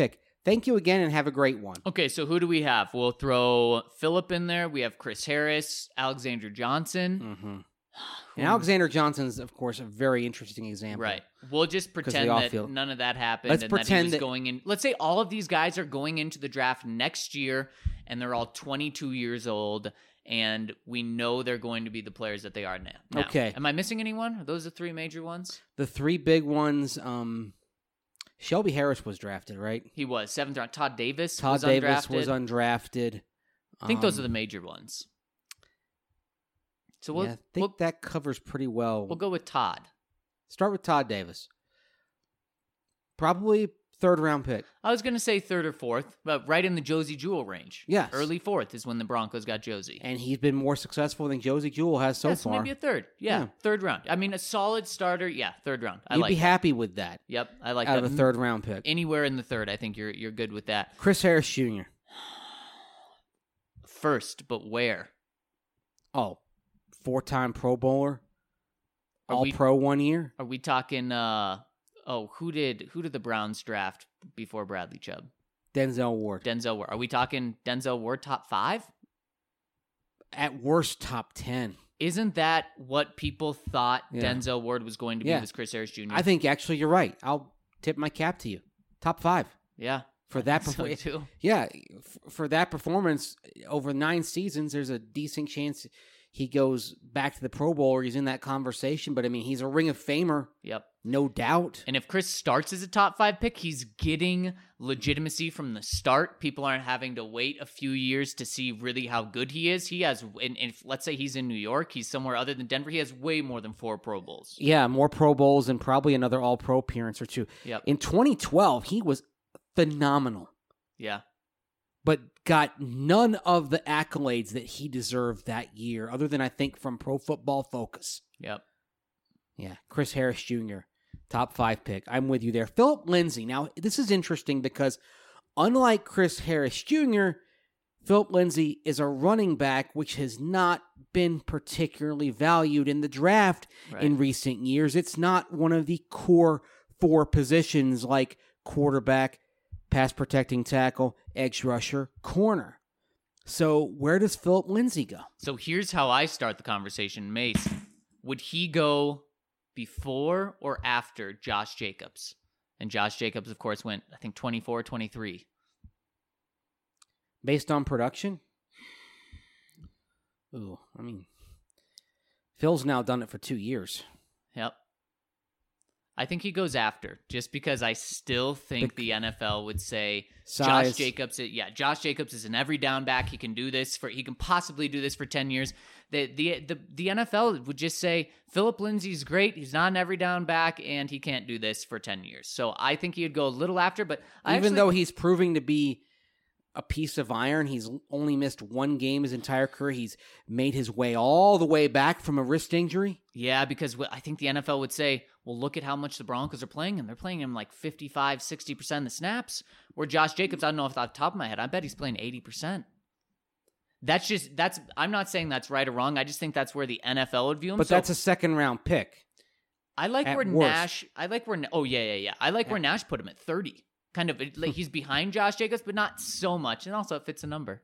Thank you again and have a great one. Okay, so who do we have? We'll throw Phillip in there. We have Chris Harris, Alexander Johnson. Mm-hmm. And Alexander Johnson's, of course, a very interesting example. Right. We'll just pretend that feel... none of that happened. Let's and pretend that he was that... going in. Let's say all of these guys are going into the draft next year, and they're all twenty-two years old, and we know they're going to be the players that they are now. now. Okay. Am I missing anyone? Are those the three major ones? The three big ones, um, Shelby Harris was drafted, right? He was. Seventh round. Todd Davis Todd was Davis undrafted. was undrafted. I think um, those are the major ones. So we'll, yeah, I think we'll, that covers pretty well. We'll go with Todd. Start with Todd Davis. Probably third round pick. I was going to say third or fourth, but right in the Josie Jewell range. Yes. Early fourth is when the Broncos got Josie. And he's been more successful than Josie Jewell has so yeah, so far. Maybe a third. Yeah, Yeah. third round. I mean, a solid starter. Yeah, third round. I You'd like be that. happy with that. Yep, I like out that. of a third round pick. Anywhere in the third, I think you're you're good with that. Chris Harris Junior First, but where? Oh, four-time Pro Bowler, Are All we- Pro one year. Are we talking? Uh, oh, who did who did the Browns draft before Bradley Chubb? Denzel Ward. Denzel Ward. Are we talking Denzel Ward top five? At worst, top ten. Isn't that what people thought Yeah. Denzel Ward was going to be? Yeah. Was Chris Harris Junior? I think actually you're right. I'll tip my cap to you. Top five Yeah, for that. so Perfor- too. yeah, f- for that performance over nine seasons, there's a decent chance he goes back to the Pro Bowl or he's in that conversation. But I mean, he's a Ring of Famer, Yep. no doubt. And if Chris starts as a top five pick, he's getting legitimacy from the start. People aren't having to wait a few years to see really how good he is. He has, and if let's say he's in New York, he's somewhere other than Denver, he has way more than four Pro Bowls. Yeah, more Pro Bowls and probably another All Pro appearance or two. Yep. In twenty twelve, he was phenomenal, Yeah. but got none of the accolades that he deserved that year, other than I think from Pro Football Focus. Yep. Yeah, Chris Harris Junior, top five pick. I'm with you there. Phillip Lindsay. Now, this is interesting because unlike Chris Harris Junior, Phillip Lindsay is a running back which has not been particularly valued in the draft Right. in recent years. It's not one of the core four positions like quarterback, pass protecting tackle, edge rusher, corner. So where does Phillip Lindsay go? So here's how I start the conversation. Mace, would he go before or after Josh Jacobs? And Josh Jacobs, of course, went, I think, twenty-four, twenty-three. Based on production? Ooh, I mean, Phil's now done it for two years. Yep. I think he goes after, just because I still think The- the N F L would say Size. Josh Jacobs. Yeah, Josh Jacobs is an every down back. He can do this for. He can possibly do this for ten years. The the the, the N F L would just say Phillip Lindsay's great. He's not an every down back, and he can't do this for ten years. So I think he'd go a little after. But I Even actually, though he's proving to be a piece of iron, he's only missed one game his entire career. He's made his way all the way back from a wrist injury. yeah, because wh- I think the N F L would say, well, look at how much the Broncos are playing him. They're playing him like fifty-five, sixty percent of the snaps. Where Josh Jacobs, I don't know if off the top of my head, I bet he's playing eighty percent. That's just, that's, I'm not saying that's right or wrong. I just think that's where the N F L would view him. But So that's a second round pick. I like at where worst. Nash, I like where, oh, yeah, yeah, yeah. I like where Nash put him at thirty. Kind of, like he's behind Josh Jacobs, but not so much. And also, it fits a number.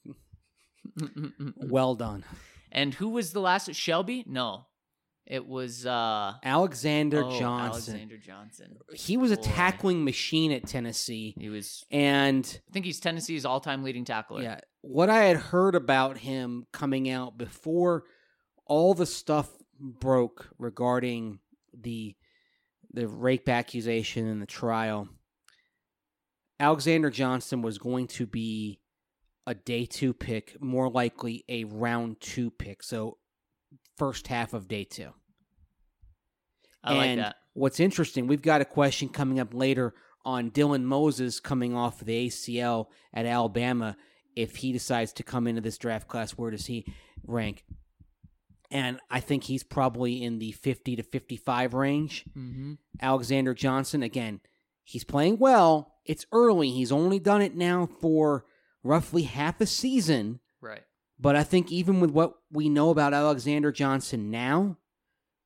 Well done. And who was the last? Shelby? No. It was uh, Alexander oh, Johnson. Alexander Johnson. He was a Boy. tackling machine at Tennessee. He was, And I think he's Tennessee's all-time leading tackler. yeah, what I had heard about him coming out before all the stuff broke regarding the the rape accusation and the trial, Alexander Johnson was going to be a day two pick, more likely a round two pick. So first half of day two. I like and that. what's interesting, we've got a question coming up later on Dylan Moses coming off the A C L at Alabama. If he decides to come into this draft class, where does he rank? And I think he's probably in the fifty to fifty-five range. Mm-hmm. Alexander Johnson, again, he's playing well. It's early. He's only done it now for roughly half a season. Right. But I think even with what we know about Alexander Johnson now,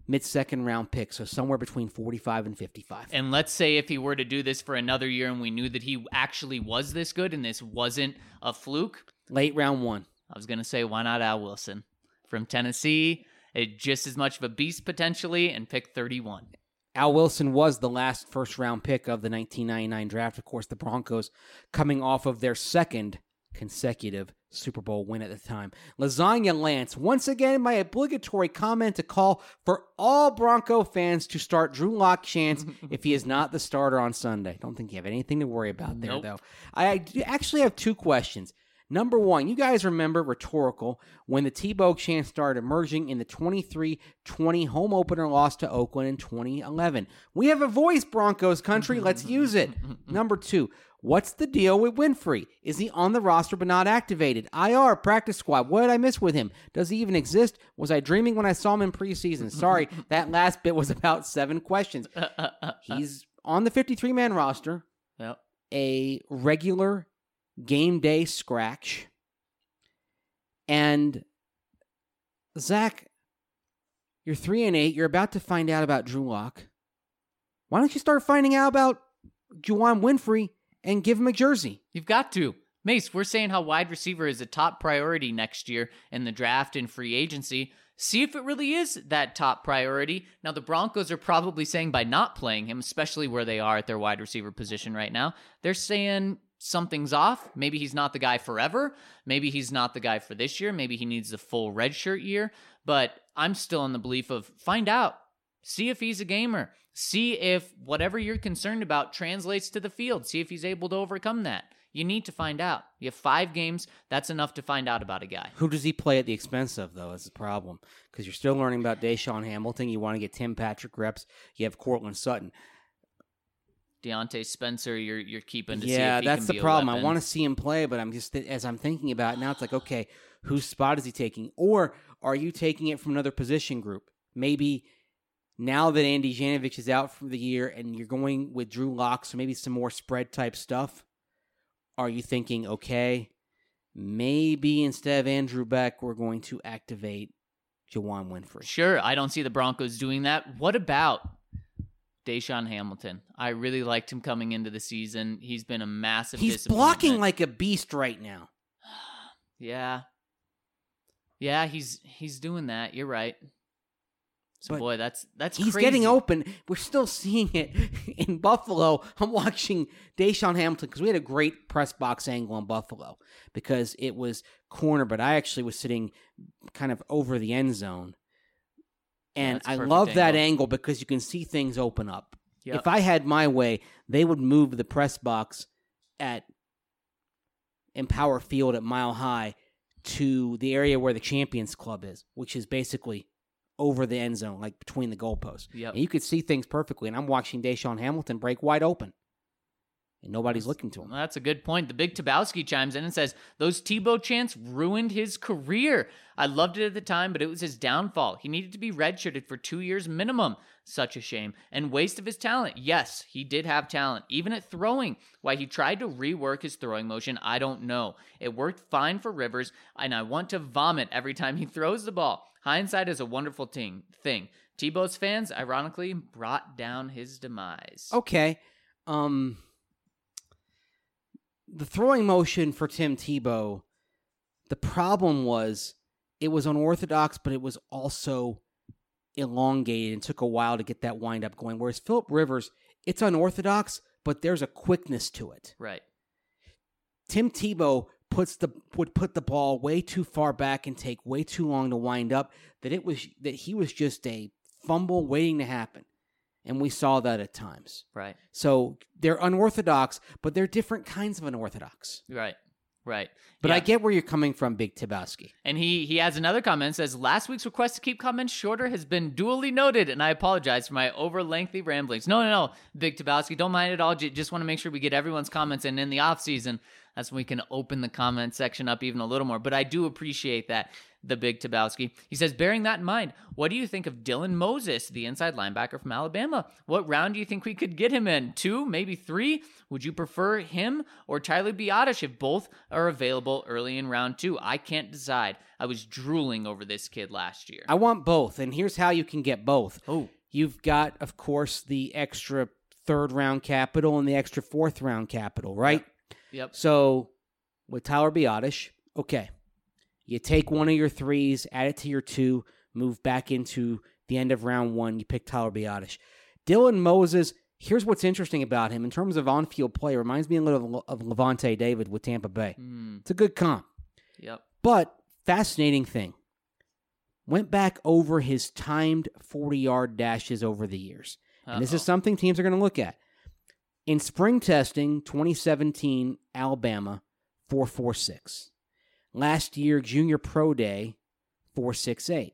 mid-second round pick, so somewhere between forty-five and fifty-five. And let's say if he were to do this for another year and we knew that he actually was this good and this wasn't a fluke. Late round one. I was going to say, why not Al Wilson from Tennessee? It, just as much of a beast potentially, and pick thirty-one. Al Wilson was the last first-round pick of the nineteen ninety-nine draft. Of course, the Broncos coming off of their second consecutive Super Bowl win at the time. Lasagna Lance, once again, my obligatory comment to call for all Bronco fans to start Drew Lock chants if he is not the starter on Sunday. Don't think you have anything to worry about there, Nope. though. I, I actually have two questions. Number one, you guys remember, rhetorical, when the Tebow chant started emerging in the twenty-three twenty home opener loss to Oakland in twenty eleven. We have a voice, Broncos country. Let's use it. Number two, what's the deal with Winfrey? Is he on the roster but not activated? I R, practice squad. What did I miss with him? Does he even exist? Was I dreaming when I saw him in preseason? Sorry, that last bit was about seven questions. He's on the fifty-three man roster, Yep. a regular game day scratch. And Zach, you're three and eight. You're about to find out about Drew Lock. Why don't you start finding out about Juwan Winfrey and give him a jersey? You've got to. Mace, we're saying how wide receiver is a top priority next year in the draft and free agency. See if it really is that top priority. Now, the Broncos are probably saying by not playing him, especially where they are at their wide receiver position right now, they're saying something's off. Maybe he's not the guy forever. Maybe he's not the guy for this year. Maybe he needs the full redshirt year. But I'm still in the belief of find out. See if he's a gamer. See if whatever you're concerned about translates to the field. See if he's able to overcome that. You need to find out. You have five games. That's enough to find out about a guy. Who does he play at the expense of, though? That's the problem. Because you're still learning about Deshaun Hamilton. You want to get Tim Patrick reps. You have Cortland Sutton. Deontay Spencer, you're you're keeping to see Yeah, if he that's can the be a problem. I weapon. want to see him play, but I'm just, as I'm thinking about it now, it's like, okay, whose spot is he taking? Or are you taking it from another position group? Maybe now that Andy Janovich is out for the year and you're going with Drew Lock, so maybe some more spread type stuff. Are you thinking, okay, maybe instead of Andrew Beck, we're going to activate Juwan Winfrey? Sure, I don't see the Broncos doing that. What about Deshaun Hamilton? I really liked him coming into the season. He's been a massive He's disappointment. blocking like a beast right now. Yeah. Yeah, he's he's doing that. You're right. So But boy, that's that's He's crazy. getting open. We're still seeing it in Buffalo. I'm watching Deshaun Hamilton because we had a great press box angle in Buffalo because it was corner, but I actually was sitting kind of over the end zone. And that's a I perfect love that angle. angle because you can see things open up. Yep. If I had my way, they would move the press box at Empower Field at Mile High to the area where the Champions Club is, which is basically over the end zone, like between the goalposts. Yep. And you could see things perfectly. And I'm watching Deshaun Hamilton break wide open. And nobody's looking to him. Well, that's a good point. The Big Tabowski chimes in and says, those Tebow chants ruined his career. I loved it at the time, but it was his downfall. He needed to be redshirted for two years minimum. Such a shame. And waste of his talent. Yes, he did have talent, even at throwing. Why he tried to rework his throwing motion, I don't know. It worked fine for Rivers, and I want to vomit every time he throws the ball. Hindsight is a wonderful thing. thing. Tebow's fans, ironically, brought down his demise. Okay. Um, the throwing motion for Tim Tebow, the problem was it was unorthodox, but it was also elongated and took a while to get that wind up going. Whereas Phillip Rivers, it's unorthodox, but there's a quickness to it. Right. Tim Tebow puts the would put the ball way too far back and take way too long to wind up, that it was that he was just a fumble waiting to happen. And we saw that at times. Right. So they're unorthodox, but they're different kinds of unorthodox. Right. Right. But Yeah. I get where you're coming from, Big Tabowski. And he he has another comment, says, last week's request to keep comments shorter has been duly noted, and I apologize for my over lengthy ramblings. No, no, no, Big Tabowski, don't mind at all. J- just want to make sure we get everyone's comments, and in the off season, that's when we can open the comment section up even a little more. But I do appreciate that. the Big Tabowski. He says, bearing that in mind, what do you think of Dylan Moses, the inside linebacker from Alabama? What round do you think we could get him in? Two, maybe three? Would you prefer him or Tyler Biadasz if both are available early in round two? I can't decide. I was drooling over this kid last year. I want both, and here's how you can get both. Oh. You've got, of course, the extra third-round capital and the extra fourth-round capital, right? Yep. yep. So, with Tyler Biadasz, okay, you take one of your threes, add it to your two, move back into the end of round one, you pick Tyler Biadasz. Dylan Moses, here's what's interesting about him. In terms of on-field play, reminds me a little of, of Levante David with Tampa Bay. Mm. It's a good comp. Yep. But, fascinating thing, went back over his timed forty-yard dashes over the years. And Uh-oh. This is something teams are going to look at. In spring testing, twenty seventeen, Alabama, four four six. Last year, junior pro day, four six eight.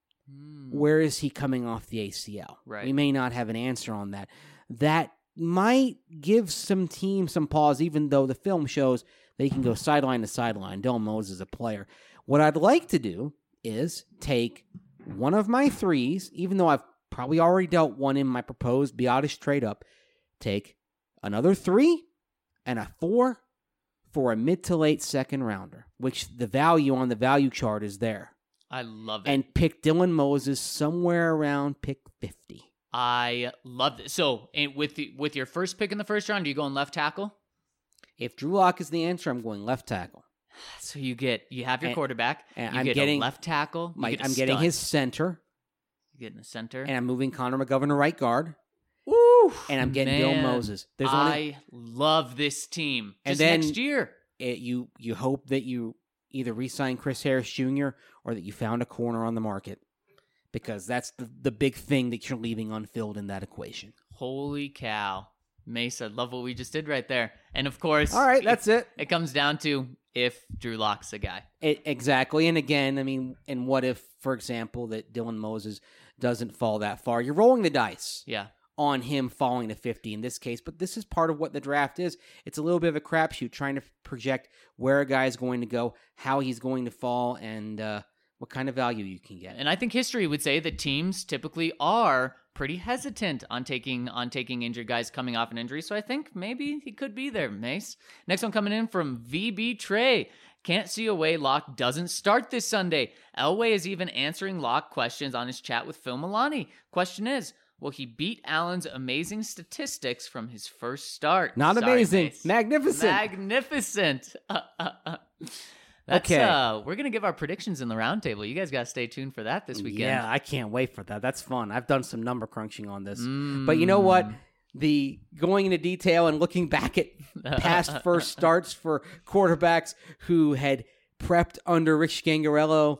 Mm. Where is he coming off the A C L? Right. We may not have an answer on that. That might give some teams some pause, even though the film shows they can go sideline to sideline. Dylan Moses is a player. What I'd like to do is take one of my threes, even though I've probably already dealt one in my proposed Biadasz trade up, take another three and a four for a mid to late second rounder, which the value on the value chart is there. I love it. And pick Dylan Moses somewhere around pick fifty. I love it. So and with the, with your first pick in the first round, are you going left tackle? If Drew Lock is the answer, I'm going left tackle. So you get you have your and, quarterback. And you I'm get getting a left tackle. My, get I'm getting stud. his center. You get in the center. And I'm moving Connor McGovern to right guard. Woo! And I'm getting Man, Bill Moses. There's I only, love this team. And Just then next year. It, you you hope that you either re-sign Chris Harris Junior or that you found a corner on the market, because that's the, the big thing that you're leaving unfilled in that equation. Holy cow. Mesa, love what we just did right there. And of course, all right, that's it. It, it comes down to if Drew Lock's a guy. It, exactly. And again, I mean, and what if, for example, that Dylan Moses doesn't fall that far? You're rolling the dice. Yeah. On him falling to fifty in this case, but this is part of what the draft is. It's a little bit of a crapshoot, trying to project where a guy is going to go, how he's going to fall, and uh, what kind of value you can get. And I think history would say that teams typically are pretty hesitant on taking on taking injured guys coming off an injury. So I think maybe he could be there, Mace. Next one coming in from V B Trey. Can't see a way Locke doesn't start this Sunday. Elway is even answering Locke questions on his chat with Phil Milani. Question is, will he beat Allen's amazing statistics from his first start? Not Sorry, amazing. Mace. Magnificent. Magnificent. Uh, uh, uh. That's, okay. Uh, we're going to give our predictions in the roundtable. You guys got to stay tuned for that this weekend. Yeah, I can't wait for that. That's fun. I've done some number crunching on this. Mm. But you know what? The going into detail and looking back at past first starts for quarterbacks who had prepped under Rich Scangarello,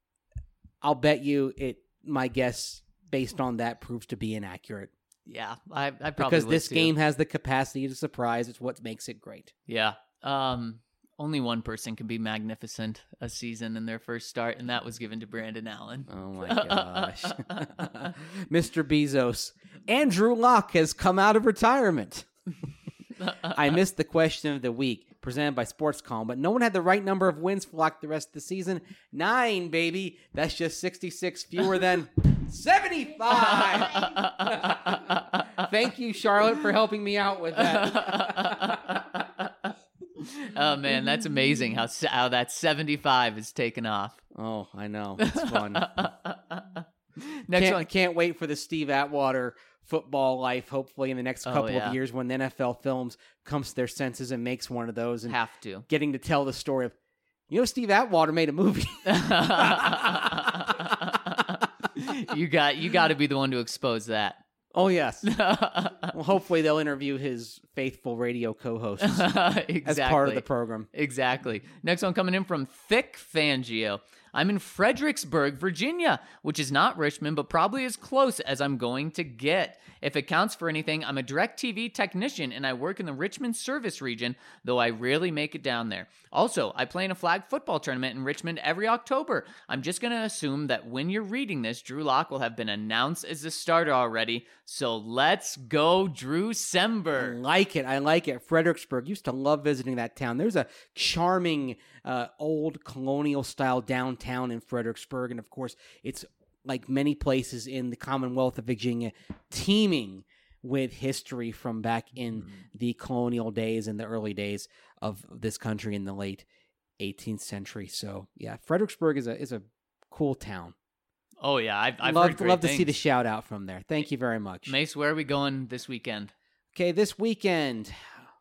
I'll bet you it, my guess based on that proves to be inaccurate. Yeah, I, I probably because would this too. game has the capacity to surprise. It's what makes it great. Yeah. Um, only one person can be magnificent a season in their first start, and that was given to Brandon Allen. Oh my gosh. Mister Bezos. Andrew Locke has come out of retirement. I missed the question of the week presented by SportsCom, but no one had the right number of wins for Locke the rest of the season. Nine, baby. That's just sixty-six fewer than seventy-five. Thank you, Charlotte, for helping me out with that. Oh, man, that's amazing how how that seventy-five is taken off. Oh, I know. It's fun. Next can't, one. Can't wait for the Steve Atwater football life, hopefully in the next couple oh, yeah. of years when the N F L Films comes to their senses and makes one of those. And have to. Getting to tell the story of, you know, Steve Atwater made a movie. you got you got to be the one to expose that. Oh, yes. Well, hopefully they'll interview his faithful radio co-hosts exactly. as part of the program. Exactly. Next one coming in from Thick Fangio. I'm in Fredericksburg, Virginia, which is not Richmond, but probably as close as I'm going to get. If it counts for anything, I'm a DirecTV technician, and I work in the Richmond service region, though I rarely make it down there. Also, I play in a flag football tournament in Richmond every October. I'm just going to assume that when you're reading this, Drew Lock will have been announced as the starter already. So let's go, Drew Sember. I like it. I like it. Fredericksburg. Used to love visiting that town. There's a charming uh, old colonial-style downtown in Fredericksburg. And, of course, it's like many places in the Commonwealth of Virginia, teeming with history from back in Mm. the colonial days and the early days of this country in the late eighteenth century. So, yeah, Fredericksburg is a is a cool town. Oh yeah, I've, I've love heard great love to things. see the shout out from there. Thank you very much. Mace, where are we going this weekend? Okay, this weekend.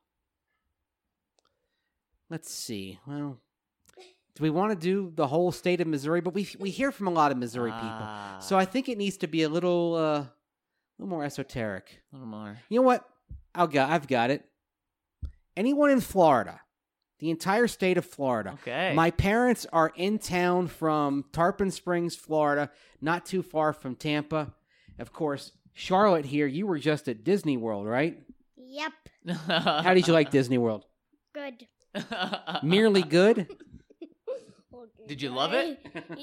Let's see. Well, do we want to do the whole state of Missouri? But we we hear from a lot of Missouri Ah, people, so I think it needs to be a little uh, a little more esoteric. a little more. You know what? I'll got. I've got it. Anyone in Florida, the entire state of Florida. Okay. My parents are in town from Tarpon Springs, Florida, not too far from Tampa. Of course, Charlotte here, you were just at Disney World, right? Yep. How did you like Disney World? Good. Merely good? Did you love it?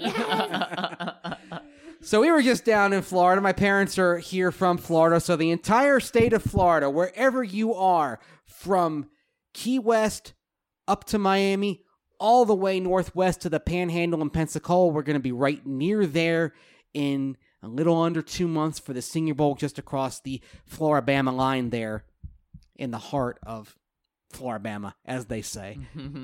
Yes. So we were just down in Florida. My parents are here from Florida. So the entire state of Florida, wherever you are, from Key West up to Miami, all the way northwest to the Panhandle and Pensacola, we're going to be right near there in a little under two months for the Senior Bowl, just across the Floribama line there in the heart of Floribama, as they say.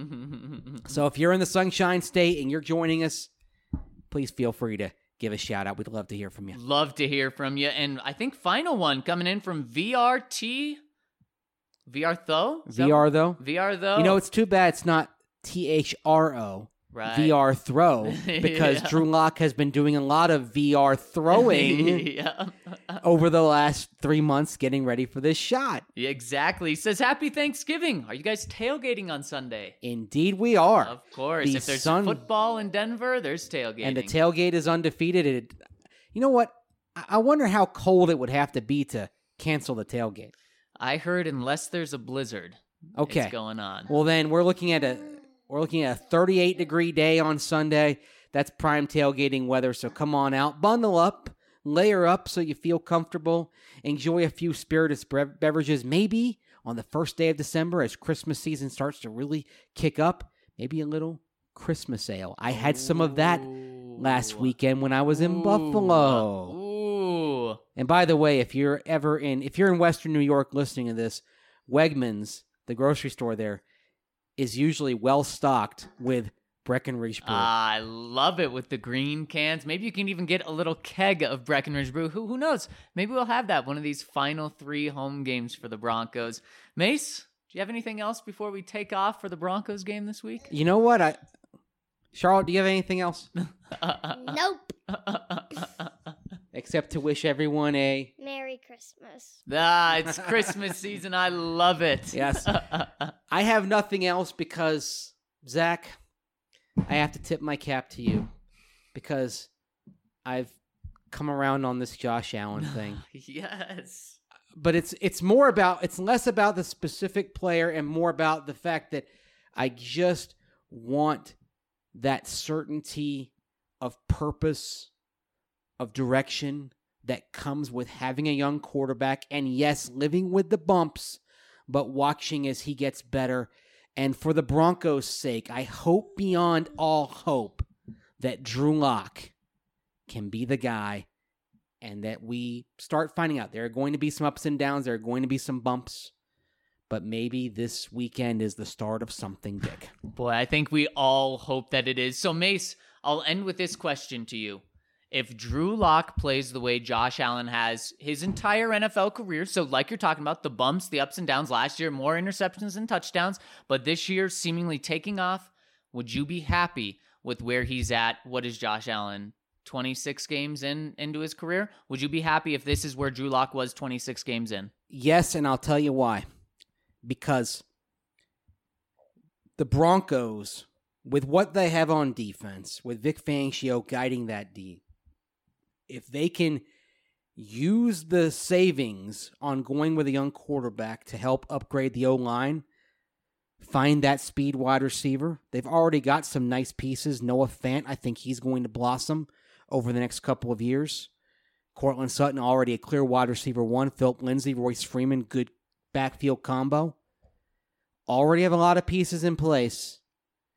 So if you're in the Sunshine State and you're joining us, please feel free to give a shout out. We'd love to hear from you. Love to hear from you. And I think final one coming in from V R T. V R Tho? Is that V R what- though, V R Tho? you know, it's too bad it's not T H R O. right. V R throw, because Yeah. Drew Lock has been doing a lot of V R throwing yeah. over the last three months getting ready for this shot. Yeah, exactly. Says happy Thanksgiving. Are you guys tailgating on Sunday? Indeed we are. Of course. The If there's sun- football in Denver, there's tailgating. And the tailgate is undefeated. It, you know what? I I wonder how cold it would have to be to cancel the tailgate. I heard unless there's a blizzard, Okay. it's going on. Well, then we're looking at a we're looking at a thirty-eight degree day on Sunday. That's prime tailgating weather. So come on out, bundle up, layer up so you feel comfortable. Enjoy a few spirituous bre- beverages. Maybe on the first day of December, as Christmas season starts to really kick up, maybe a little Christmas ale. I had some of that last Ooh. weekend when I was in Ooh. Buffalo. Ooh. And by the way, if you're ever in, if you're in Western New York listening to this, Wegmans, the grocery store there, is usually well stocked with Breckenridge Brew. I love it with the green cans. Maybe you can even get a little keg of Breckenridge Brew. Who who knows? Maybe we'll have that one of these final three home games for the Broncos. Mace, do you have anything else before we take off for the Broncos game this week? You know what? I, Charlotte, do you have anything else Nope. except to wish everyone a Merry Christmas. Ah, it's Christmas season. I love it. yes? I have nothing else because Zach, I have to tip my cap to you because I've come around on this Josh Allen thing. Yes. But it's it's more about it's less about the specific player and more about the fact that I just want that certainty of purpose, of direction that comes with having a young quarterback, and yes, living with the bumps, but watching as he gets better. And for the Broncos' sake, I hope beyond all hope that Drew Lock can be the guy, and that we start finding out there are going to be some ups and downs, there are going to be some bumps, but maybe this weekend is the start of something big. Boy, I think we all hope that it is. So, Mace, I'll end with this question to you. If Drew Lock plays the way Josh Allen has his entire N F L career, so like you're talking about, the bumps, the ups and downs, last year, more interceptions than touchdowns, but this year seemingly taking off, would you be happy with where he's at? What is Josh Allen, twenty-six games in into his career? Would you be happy if this is where Drew Lock was twenty-six games in? Yes, and I'll tell you why. Because the Broncos, with what they have on defense, with Vic Fangio guiding that D, if they can use the savings on going with a young quarterback to help upgrade the O-line, find that speed wide receiver, they've already got some nice pieces. Noah Fant, I think he's going to blossom over the next couple of years. Cortland Sutton, already a clear wide receiver one. Philip Lindsay, Royce Freeman, good backfield combo. Already have a lot of pieces in place.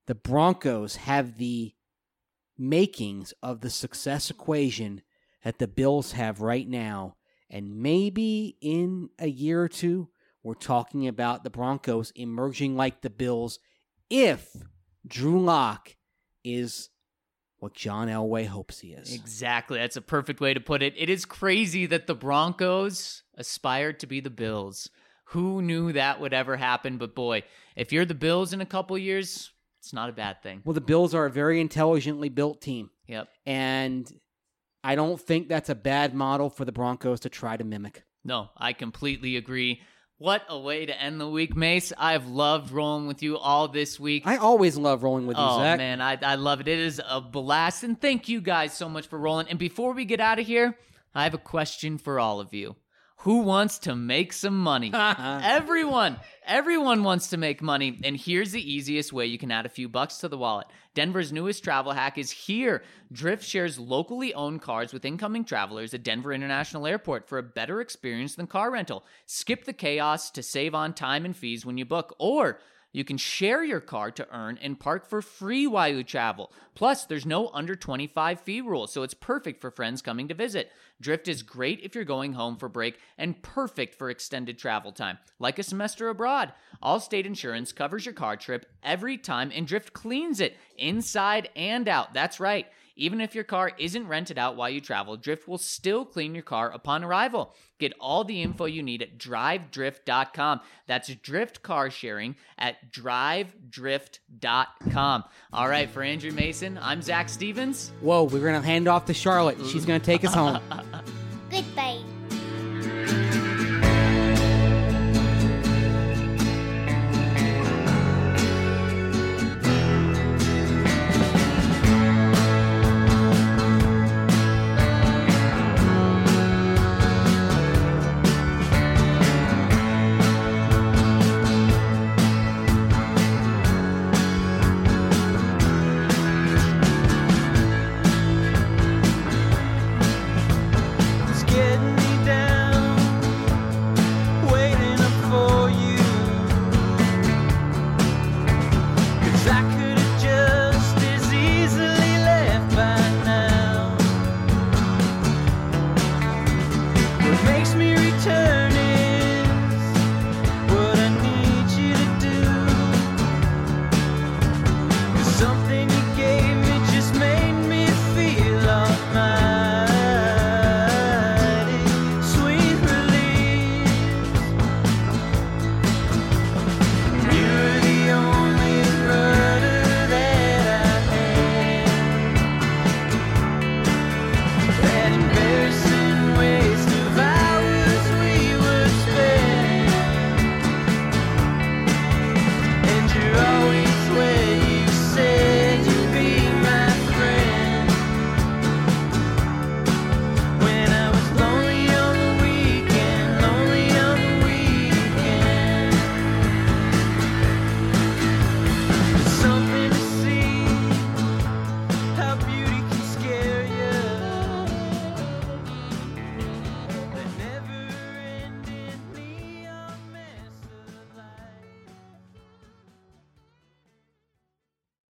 the Broncos have the makings of the success equation that the Bills have right now. And maybe in a year or two, we're talking about the Broncos emerging like the Bills if Drew Lock is what John Elway hopes he is. Exactly. That's a perfect way to put it. It is crazy that the Broncos aspired to be the Bills. Who knew that would ever happen? But boy, if you're the Bills in a couple years, it's not a bad thing. Well, the Bills are a very intelligently built team. Yep. And I don't think that's a bad model for the Broncos to try to mimic. No, I completely agree. What a way to end the week, Mace. I've loved rolling with you all this week. I always love rolling with you, oh, Zach. Oh, man, I, I love it. It is a blast. And thank you guys so much for rolling. And before we get out of here, I have a question for all of you. Who wants to make some money? Everyone. Everyone wants to make money. And here's the easiest way you can add a few bucks to the wallet. Denver's newest travel hack is here. Drift shares locally owned cars with incoming travelers at Denver International Airport for a better experience than car rental. Skip the chaos to save on time and fees when you book. Or you can share your car to earn and park for free while you travel. Plus, there's no under twenty-five fee rule, so it's perfect for friends coming to visit. Drift is great if you're going home for break and perfect for extended travel time, like a semester abroad. Allstate Insurance covers your car trip every time, and Drift cleans it inside and out. That's right. Even if your car isn't rented out while you travel, Drift will still clean your car upon arrival. Get all the info you need at drive drift dot com. That's Drift Car Sharing at drive drift dot com. All right, for Andrew Mason, I'm Zach Stevens. Whoa, we're going to hand off to Charlotte. She's going to take us home.